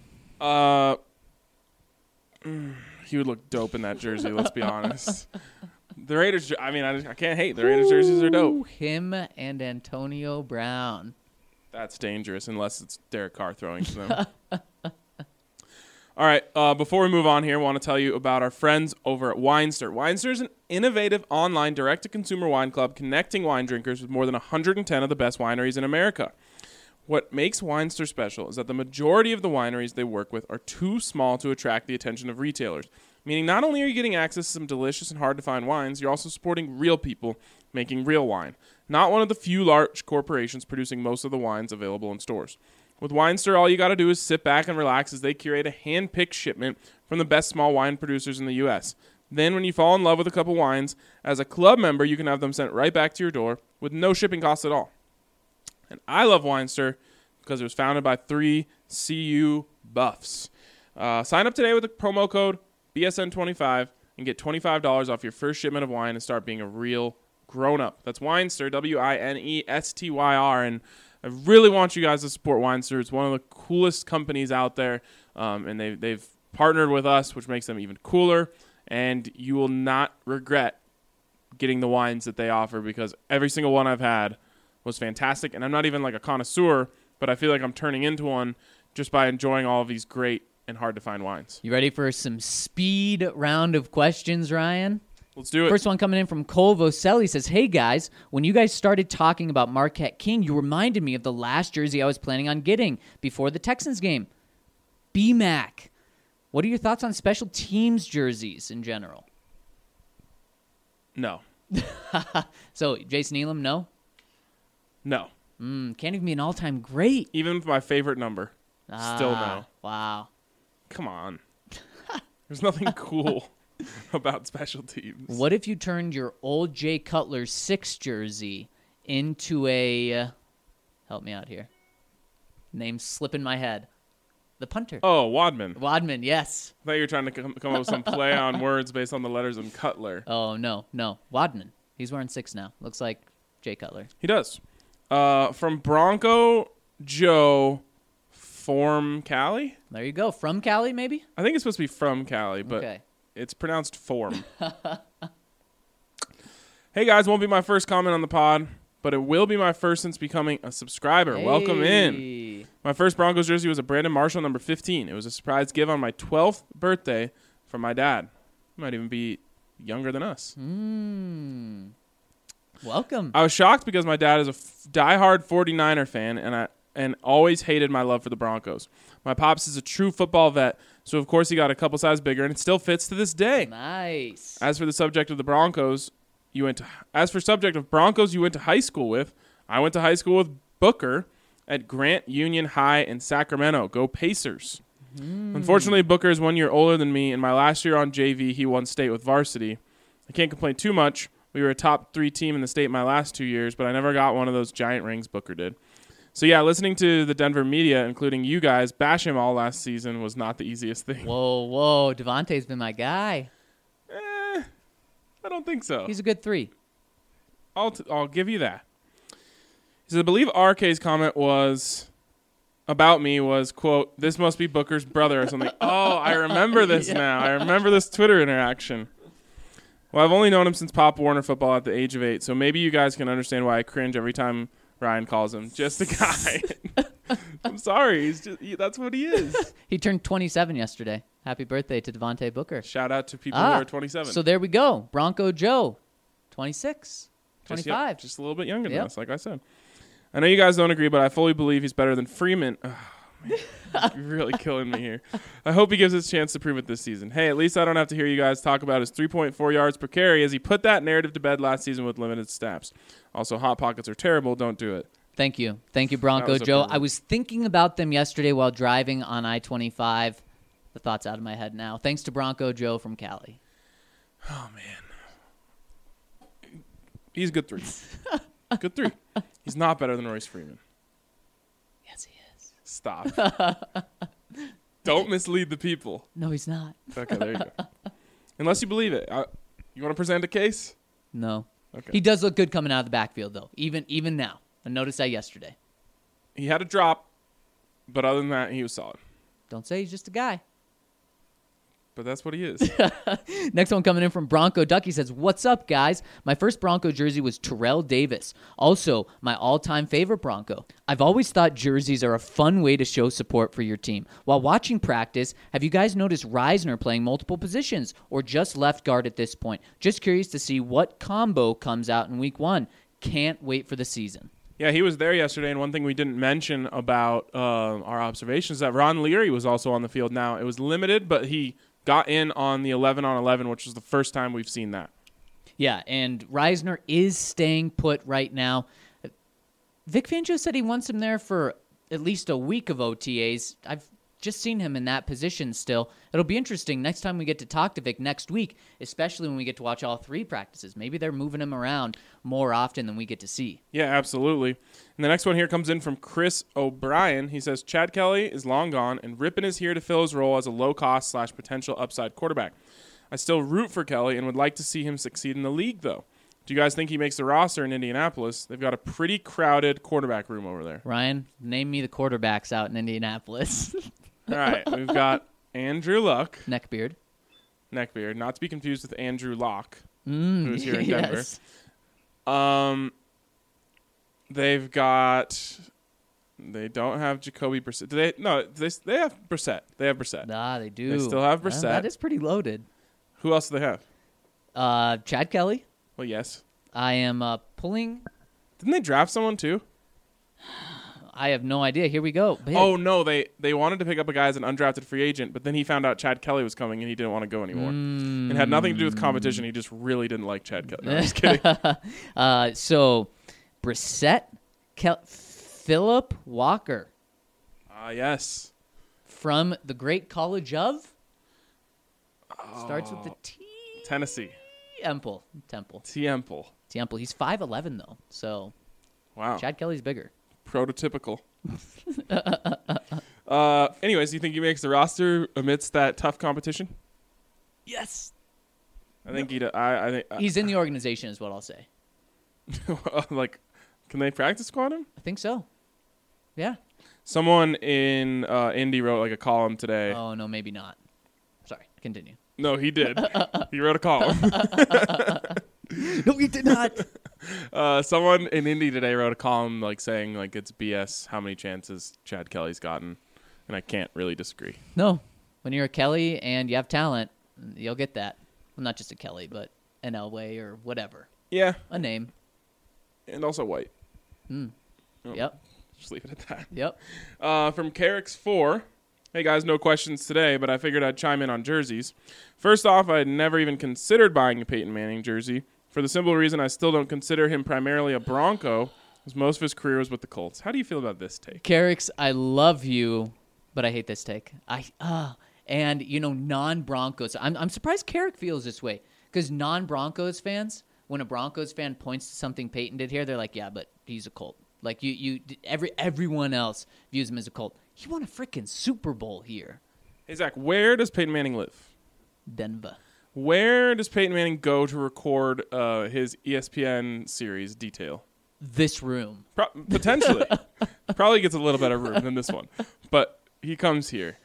He would look dope in that jersey, let's be honest. The Raiders, I mean, I can't hate. The Raiders jerseys are dope. Him and Antonio Brown. That's dangerous unless it's Derek Carr throwing to them. All right, before we move on here, I want to tell you about our friends over at Winester. Winester is an innovative online direct-to-consumer wine club connecting wine drinkers with more than 110 of the best wineries in America. What makes Winester special is that the majority of the wineries they work with are too small to attract the attention of retailers, meaning not only are you getting access to some delicious and hard-to-find wines, you're also supporting real people making real wine, not one of the few large corporations producing most of the wines available in stores. With Winester, all you got to do is sit back and relax as they curate a hand-picked shipment from the best small wine producers in the U.S. Then when you fall in love with a couple wines, as a club member, you can have them sent right back to your door with no shipping costs at all. And I love Winester because it was founded by 3 CU Buffs. Sign up today with the promo code BSN25 and get $25 off your first shipment of wine and start being a real grown-up. That's Winester, Winestyr, and I really want you guys to support Winester. It's one of the coolest companies out there, and they've partnered with us, which makes them even cooler, and you will not regret getting the wines that they offer because every single one I've had was fantastic, and I'm not even like a connoisseur, but I feel like I'm turning into one just by enjoying all of these great and hard-to-find wines. You ready for some speed round of questions, Ryan? Let's do it. First one coming in from Cole Voselli says, hey guys, when you guys started talking about Marquette King, you reminded me of the last jersey I was planning on getting before the Texans game. BMAC. What are your thoughts on special teams jerseys in general? No. So, Jason Elam, no? No. Can't even be an all-time great. Even with my favorite number. Still no. Wow. Come on. There's nothing cool about special teams. What if you turned your old Jay Cutler 6 jersey into a help me out here. Name slip in my head. The punter. Oh, Wadman. Wadman, yes. I thought you were trying to come up with some play on words based on the letters in Cutler. Oh, no. Wadman. He's wearing 6 now. Looks like Jay Cutler. He does. From Bronco Joe Form Cali. There you go. From Cali, maybe? I think it's supposed to be from Cali, but Okay. it's pronounced Form. Hey, guys, won't be my first comment on the pod, but it will be my first since becoming a subscriber. Welcome in. Hey. My first Broncos jersey was a Brandon Marshall number 15. It was a surprise give on my 12th birthday from my dad. He might even be younger than us. Welcome. I was shocked because my dad is a diehard 49er fan, and always hated my love for the Broncos. My pops is a true football vet, so of course he got a couple size bigger, and it still fits to this day. Nice. As for the subject of the Broncos, you went to high school with, I went to high school with Booker at Grant Union High in Sacramento. Go Pacers. Unfortunately, Booker is 1 year older than me. In my last year on JV, he won state with varsity. I can't complain too much. We were a top 3 team in the state my last 2 years, but I never got one of those giant rings Booker did. So, yeah, listening to the Denver media, including you guys, bash him all last season was not the easiest thing. Whoa. Devontae's been my guy. I don't think so. He's a good 3. I'll give you that. He says, I believe RK's comment was about me was, quote, this must be Booker's brother or something. Oh, I remember this now. I remember this Twitter interaction. Well, I've only known him since Pop Warner football at the age of 8, so maybe you guys can understand why I cringe every time Ryan calls him just a guy. I'm sorry. That's what he is. He turned 27 yesterday. Happy birthday to Devontae Booker. Shout out to people who are 27. So there we go. Bronco Joe, 26, 25. Just a little bit younger than Yep. us, like I said. I know you guys don't agree, but I fully believe he's better than Freeman. Oh, man. You're really killing me here. I hope he gives us a chance to prove it this season. Hey, at least I don't have to hear you guys talk about his 3.4 yards per carry as he put that narrative to bed last season with limited snaps. Also, Hot Pockets are terrible. Don't do it. Thank you, That Bronco was a Joe. privilege. I was thinking about them yesterday while driving on I-25. The thought's out of my head now. Thanks to Bronco Joe from Cali. Oh, man. He's a good 3. Good 3. He's not better than Royce Freeman. Yes, he is. Stop. Don't mislead the people. No, he's not. Okay, there you go. Unless you believe it. You want to present a case? No. Okay. He does look good coming out of the backfield, though, even now. I noticed that yesterday. He had a drop, but other than that, he was solid. Don't say he's just a guy. But that's what he is. Next one coming in from Bronco Duck. He says, what's up, guys? My first Bronco jersey was Terrell Davis. Also, my all-time favorite Bronco. I've always thought jerseys are a fun way to show support for your team. While watching practice, have you guys noticed Reisner playing multiple positions or just left guard at this point? Just curious to see what combo comes out in week 1. Can't wait for the season. Yeah, he was there yesterday, and one thing we didn't mention about our observations is that Ron Leary was also on the field now. It was limited, but he got in on the 11-on-11, which was the first time we've seen that. Yeah, and Reisner is staying put right now. Vic Fangio said he wants him there for at least a week of OTAs. I've just seen him in that position still. It'll be interesting next time we get to talk to Vic next week, especially when we get to watch all 3 practices. Maybe they're moving him around more often than we get to see. Yeah, absolutely. And the next one here comes in from Chris O'Brien. He says, Chad Kelly is long gone, and Rippon is here to fill his role as a low-cost / potential upside quarterback. I still root for Kelly and would like to see him succeed in the league, though. Do you guys think he makes the roster in Indianapolis? They've got a pretty crowded quarterback room over there. Ryan, name me the quarterbacks out in Indianapolis. All right, we've got Andrew Luck, Neckbeard. not to be confused with Andrew Locke, who's here in Denver. Yes. They've got. They don't have Jacoby Brissett. Do they? No, they have Brissett. They have Brissett. Ah, they do. They still have Brissett. That is pretty loaded. Who else do they have? Chad Kelly. Well, yes. I am pulling. Didn't they draft someone too? I have no idea. Here we go. But Oh no, they wanted to pick up a guy as an undrafted free agent, but then he found out Chad Kelly was coming and he didn't want to go anymore. It had nothing to do with competition. He just really didn't like Chad Kelly. No, I'm just kidding. So, Brissett, Philip Walker Yes. from the great college of. Starts with the T. Tennessee. Temple. Temple. He's 5'11", though. So, Wow. Chad Kelly's bigger. Prototypical. Anyways, do you think he makes the roster amidst that tough competition? Yes. I think I think He's in the organization, is what I'll say. like, can they practice squad him? I think so. Yeah. Someone in Indy wrote like a column today. Oh, no, maybe not. Sorry, continue. No, he did. He wrote a column. No, you did not. Someone in Indy today wrote a column like saying like it's BS how many chances Chad Kelly's gotten, and I can't really disagree. No, when you're a Kelly and you have talent, you'll get that. Well, not just a Kelly, but an Elway or whatever. Yeah, A name. and also white. Oh, Yep. Just leave it at that. Yep. From Carrick's4. Hey guys, no questions today, but I figured I'd chime in on jerseys. First off, I had never even considered buying a Peyton Manning jersey for the simple reason I still don't consider him primarily a Bronco, as most of his career was with the Colts. How do you feel about this take? Carricks, I love you, but I hate this take. And non-Broncos. I'm surprised Carrick feels this way because non-Broncos fans, when a Broncos fan points to something Peyton did here, they're like, yeah, but he's a Colt. Like everyone else views him as a Colt. He won a freaking Super Bowl here. Hey Zach, where does Peyton Manning live? Denver. Where does Peyton Manning go to record his ESPN series Detail? This room. Potentially. Probably gets a little better room than this one. But he comes here.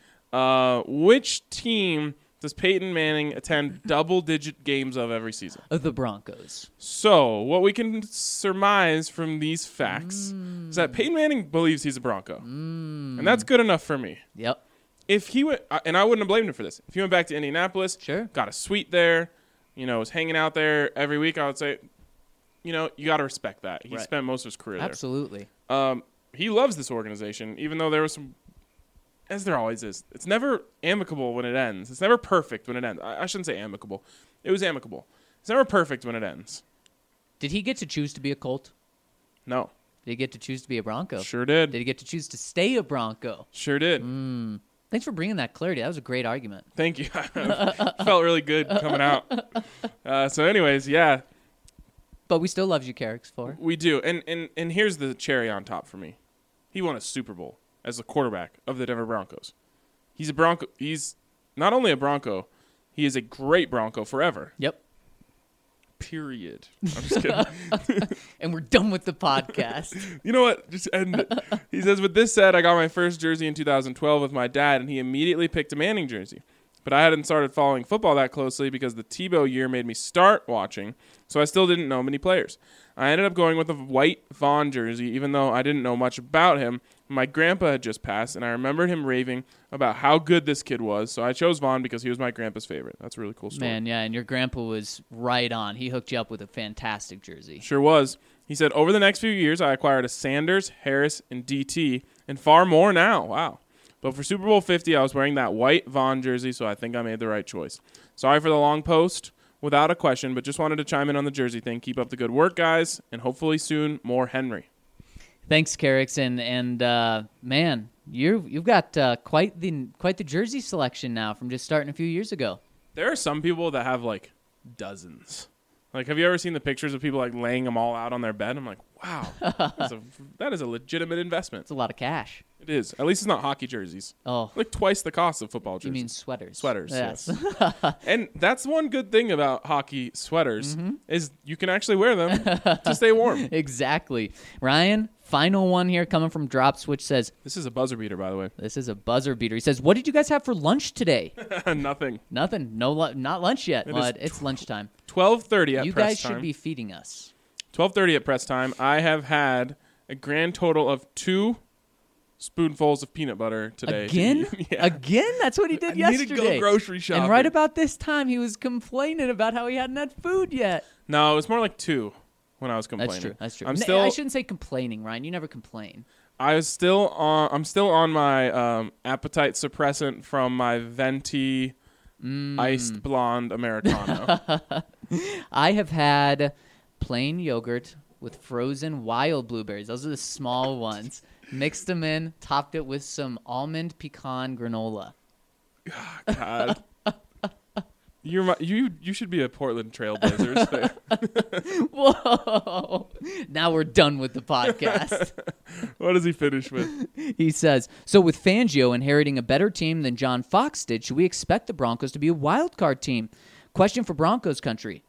Which team does Peyton Manning attend double-digit games of every season? The Broncos. So what we can surmise from these facts is that Peyton Manning believes he's a Bronco. And that's good enough for me. Yep. If he went, and I wouldn't have blamed him for this, if he went back to Indianapolis, Sure. got a suite there, was hanging out there every week, I would say, you got to respect that. He Right. spent most of his career Absolutely. there. He loves this organization, even though there was some, as there always is. It's never amicable when it ends. It's never perfect when it ends. I shouldn't say amicable. It was amicable. It's never perfect when it ends. Did he get to choose to be a Colt? No. Did he get to choose to be a Bronco? Sure did. Did he get to choose to stay a Bronco? Sure did. Thanks for bringing that clarity. That was a great argument. Thank you. Felt really good coming out. So anyways, yeah, But we still love you, Carricks, for. we do. And here's the cherry on top for me. He won a Super Bowl as the quarterback of the Denver Broncos. He's a Bronco. He's not only a Bronco, he is a great Bronco forever. Yep. Period. I'm just kidding. And we're done with the podcast. You know what? Just end it. He says, with this said, I got my first jersey in 2012 with my dad, and he immediately picked a Manning jersey. But I hadn't started following football that closely because the Tebow year made me start watching, so I still didn't know many players. I ended up going with a white Vaughn jersey, even though I didn't know much about him. My grandpa had just passed, and I remembered him raving about how good this kid was, so I chose Vaughn because he was my grandpa's favorite. That's a really cool story. Man, yeah, and your grandpa was right on. He hooked you up with a fantastic jersey. Sure was. He said, over the next few years, I acquired a Sanders, Harris, and DT, and far more now. Wow. But for Super Bowl 50, I was wearing that white Vaughn jersey, so I think I made the right choice. Sorry for the long post, without a question, but just wanted to chime in on the jersey thing. Keep up the good work, guys, and hopefully soon, more Henry. Thanks, Carricks, and man, you've got quite the jersey selection now from just starting a few years ago. There are some people that have, like, dozens. Like, have you ever seen the pictures of people, like, laying them all out on their bed? I'm like, wow, that is a legitimate investment. It's a lot of cash. It is. At least it's not hockey jerseys. Oh, Like, twice the cost of football jerseys. you mean sweaters? Sweaters, Yes. And that's one good thing about hockey sweaters is you can actually wear them to stay warm. Exactly. Ryan, final one here coming from Drop Switch says, This is a buzzer beater, by the way. this is a buzzer beater. He says, what did you guys have for lunch today? Nothing. Nothing. Not lunch yet, It bud. is It's lunchtime. 12:30 at You press guys time. should be feeding us. 12:30 at press time. I have had a grand total of 2 spoonfuls of peanut butter today. Again? Yeah. Again? That's what he did I need yesterday. to go grocery shopping. And right about this time, he was complaining about how he hadn't had food yet. No, it was more like 2 when I was complaining. That's true. I'm I still shouldn't say complaining, Ryan. You never complain. I'm still on my appetite suppressant from my venti iced blonde Americano. I have had plain yogurt with frozen wild blueberries. Those are the small ones. Mixed them in, topped it with some almond pecan granola. God. You should be a Portland Trailblazers fan. Whoa! Now we're done with the podcast. What does he finish with? He says, so with Fangio inheriting a better team than John Fox did, should we expect the Broncos to be a wild card team? Question for Broncos country.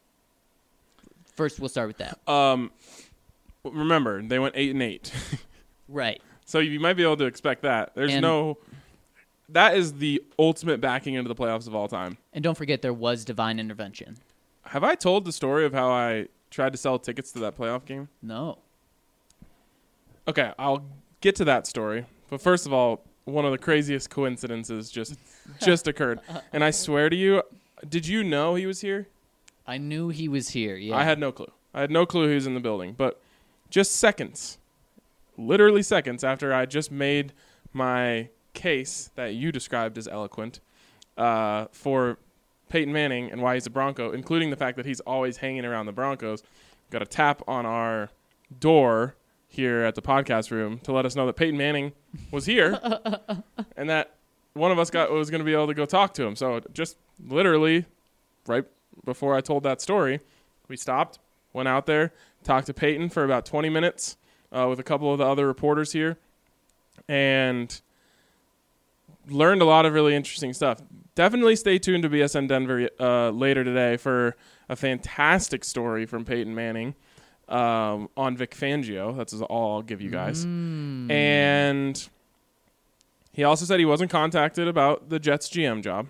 First, we'll start with that. Remember, they went 8-8. Right. So you might be able to expect that. That is the ultimate backing into the playoffs of all time. And don't forget, there was divine intervention. Have I told the story of how I tried to sell tickets to that playoff game? No. Okay, I'll get to that story. But first of all, one of the craziest coincidences just occurred. And I swear to you, did you know he was here? I knew he was here, yeah. I had no clue. I had no clue he was in the building. But just seconds, literally seconds after I just made my case that you described as eloquent for Peyton Manning and why he's a Bronco, including the fact that he's always hanging around the Broncos, got a tap on our door here at the podcast room to let us know that Peyton Manning was here and that one of us was going to be able to go talk to him. So just literally right before I told that story, we stopped, went out there, talked to Peyton for about 20 minutes with a couple of the other reporters here, and learned a lot of really interesting stuff. Definitely stay tuned to BSN Denver later today for a fantastic story from Peyton Manning on Vic Fangio. That's all I'll give you guys. And he also said he wasn't contacted about the Jets GM job.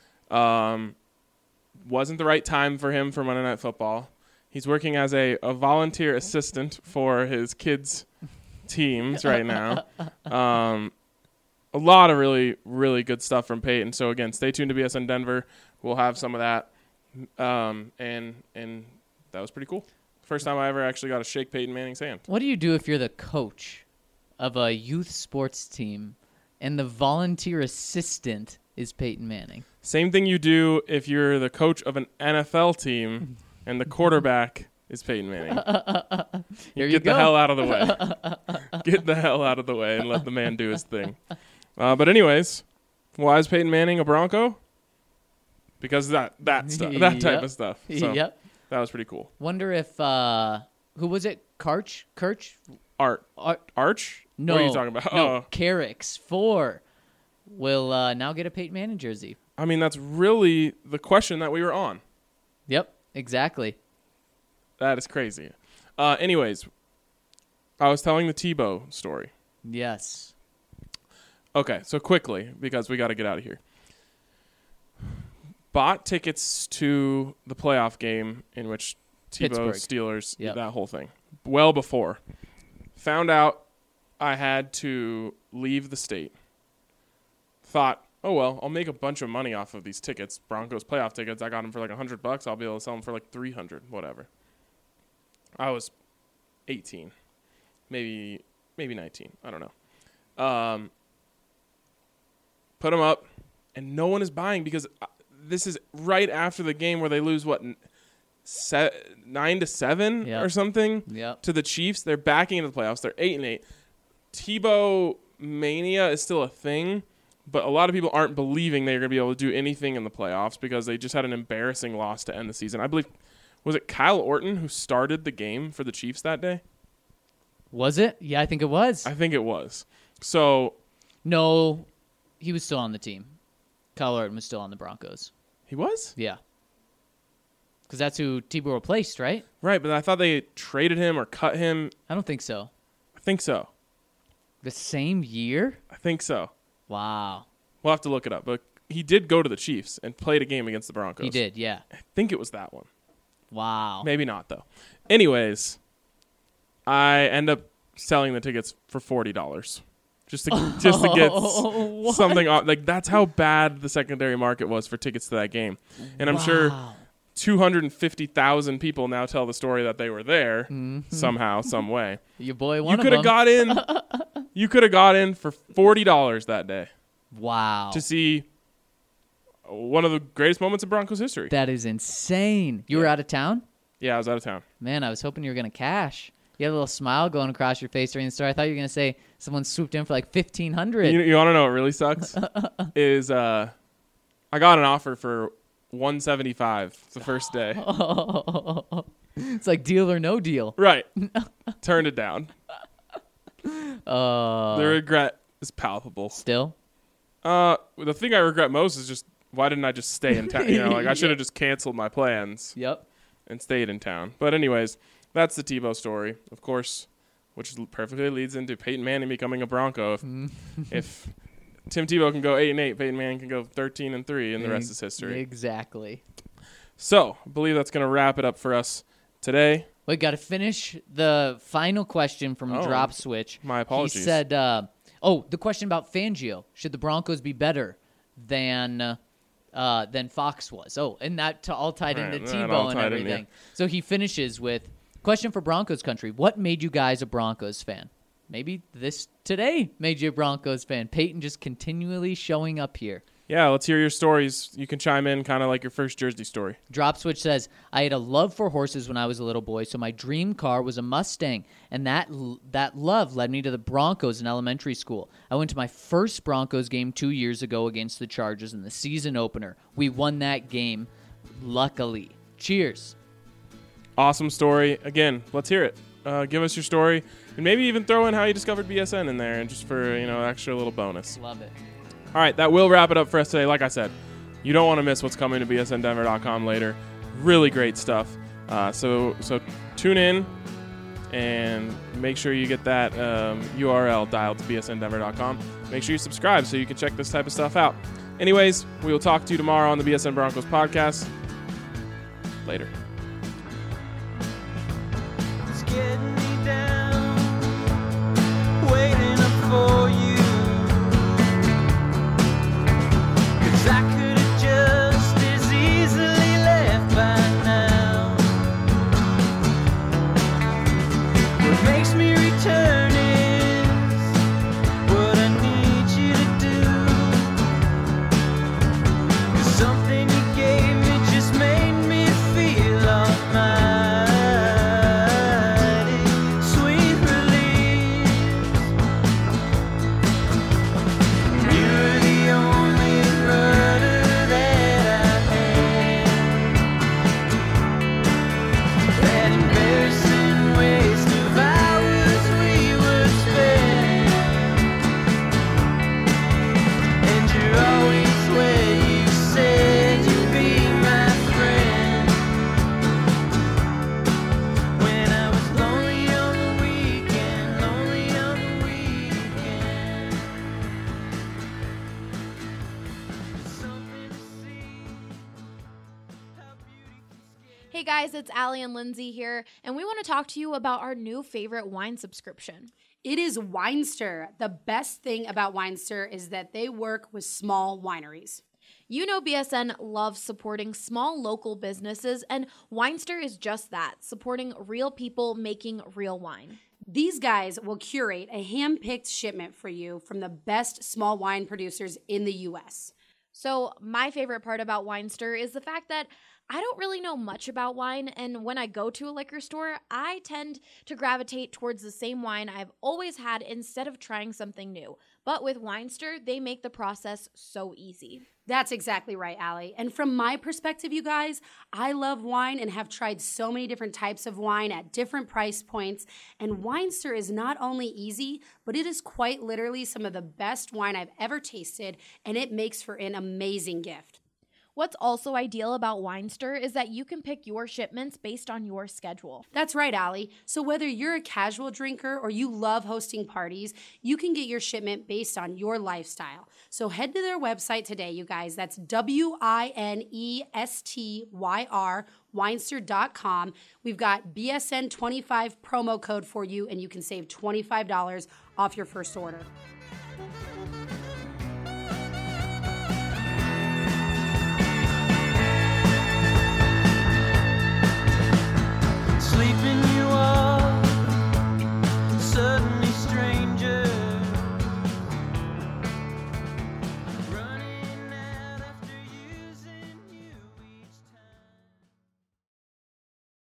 Wasn't the right time for him for Monday Night Football. He's working as a volunteer assistant for his kids' teams right now. A lot of really, really good stuff from Peyton. So, again, stay tuned to BSN Denver. We'll have some of that. And that was pretty cool. First time I ever actually got to shake Peyton Manning's hand. What do you do if you're the coach of a youth sports team and the volunteer assistant is Peyton Manning? Same thing you do if you're the coach of an NFL team and the quarterback is Peyton Manning. Get the hell out of the way. Get the hell out of the way and let the man do his thing. But anyways, why is Peyton Manning a Bronco? Because that stuff, that type of stuff. So Yep. That was pretty cool. Wonder if who was it? Kirch? Arch? No. What are you talking about? No, Carrick's 4 will now get a Peyton Manning jersey. I mean, that's really the question that we were on. Yep, exactly. That is crazy. Anyways, I was telling the Tebow story. Yes. Okay, so quickly, because we got to get out of here. Bought tickets to the playoff game in which Tebow, Pittsburgh. Steelers, Yep. that whole thing. Well before. Found out I had to leave the state. Thought, oh, well, I'll make a bunch of money off of these tickets. Broncos playoff tickets. I got them for like $100. I'll be able to sell them for like $300, whatever. I was 18, maybe 19. I don't know. Put them up, and no one is buying because this is right after the game where they lose, 9-7 Yep. or something Yep. to the Chiefs. They're backing into the playoffs. They're 8-8. Tebow mania is still a thing, but a lot of people aren't believing they're going to be able to do anything in the playoffs because they just had an embarrassing loss to end the season. I believe, was it Kyle Orton who started the game for the Chiefs that day? Was it? Yeah, I think it was. I think it was. So No, he was still on the team. Kyle Orton was still on the Broncos. he was? Yeah. Because that's who Tebow replaced, right? Right, but I thought they traded him or cut him. I don't think so. I think so. The same year? I think so. Wow. We'll have to look it up. But he did go to the Chiefs and played a game against the Broncos. He did, yeah. I think it was that one. Wow. Maybe not, though. Anyways, I end up selling the tickets for $40 just to get something off. Like, that's how bad the secondary market was for tickets to that game. And I'm sure Wow. 250,000 people now tell the story that they were there somehow, some way. Your boy You one of could have them. got in. You could have got in for $40 that day Wow. to see one of the greatest moments of Broncos history. That is insane. You were Yeah. out of town? Yeah, I was out of town. Man, I was hoping you were going to cash. You had a little smile going across your face during the story. I thought you were going to say someone swooped in for like $1,500. You want to know what really sucks? is I got an offer for $175 the first day. It's like deal or no deal. Right. Turned it down. The The regret is palpable. Still? The thing I regret most is just why didn't I just stay in town? Like I should have just canceled my plans Yep. and stayed in town. But anyways, that's the Tebow story. Of course, which perfectly leads into Peyton Manning becoming a Bronco. If Tim Tebow can go 8-8, Peyton Manning can go 13-3, and the rest is history. Exactly. So, I believe that's going to wrap it up for us today. We got to finish the final question from Drop Switch. My apologies. He said, the question about Fangio. Should the Broncos be better than Fox was? Oh, and that all tied into Tebow and everything. So he finishes with, question for Broncos country. What made you guys a Broncos fan? Maybe this today made you a Broncos fan. Peyton just continually showing up here. Yeah, let's hear your stories. You can chime in kind of like your first Jersey story. Drop Switch says, I had a love for horses when I was a little boy, so my dream car was a Mustang, and that love led me to the Broncos in elementary school. I went to my first Broncos game 2 years ago against the Chargers in the season opener. We won that game, luckily. Cheers. Awesome story. Again, let's hear it. Give us your story, and maybe even throw in how you discovered BSN in there, and just for extra little bonus. Love it. All right, that will wrap it up for us today. Like I said, you don't want to miss what's coming to bsndenver.com later. Really great stuff. So tune in and make sure you get that URL dialed to bsndenver.com. Make sure you subscribe so you can check this type of stuff out. Anyways, we will talk to you tomorrow on the BSN Broncos podcast. Later. It's getting me down, waiting up for you. I could have just as easily left by now. What makes me return is what I need you to do. 'Cause something you gave me just made me feel almighty. Sweet release. You're the only rudder that I had. That embarrassing waste of hours we would spend. And you're always where you said you'd be my friend. When I was lonely on the weekend, lonely on the weekend. Something to see. How beauty can scare. Hey guys, it's Allie and Lindsay here, and we want to talk to you about our new favorite wine subscription. It is Winester. The best thing about Winester is that they work with small wineries. You know BSN loves supporting small local businesses, and Winester is just that, supporting real people making real wine. These guys will curate a hand-picked shipment for you from the best small wine producers in the U.S. So my favorite part about Winester is the fact that I don't really know much about wine, and when I go to a liquor store, I tend to gravitate towards the same wine I've always had instead of trying something new. But with Winester, they make the process so easy. That's exactly right, Allie. And from my perspective, you guys, I love wine and have tried so many different types of wine at different price points. And Winester is not only easy, but it is quite literally some of the best wine I've ever tasted, and it makes for an amazing gift. What's also ideal about Winester is that you can pick your shipments based on your schedule. That's right, Allie. So whether you're a casual drinker or you love hosting parties, you can get your shipment based on your lifestyle. So head to their website today, you guys. That's WINESTYR, Winester.com. We've got BSN25 promo code for you, and you can save $25 off your first order.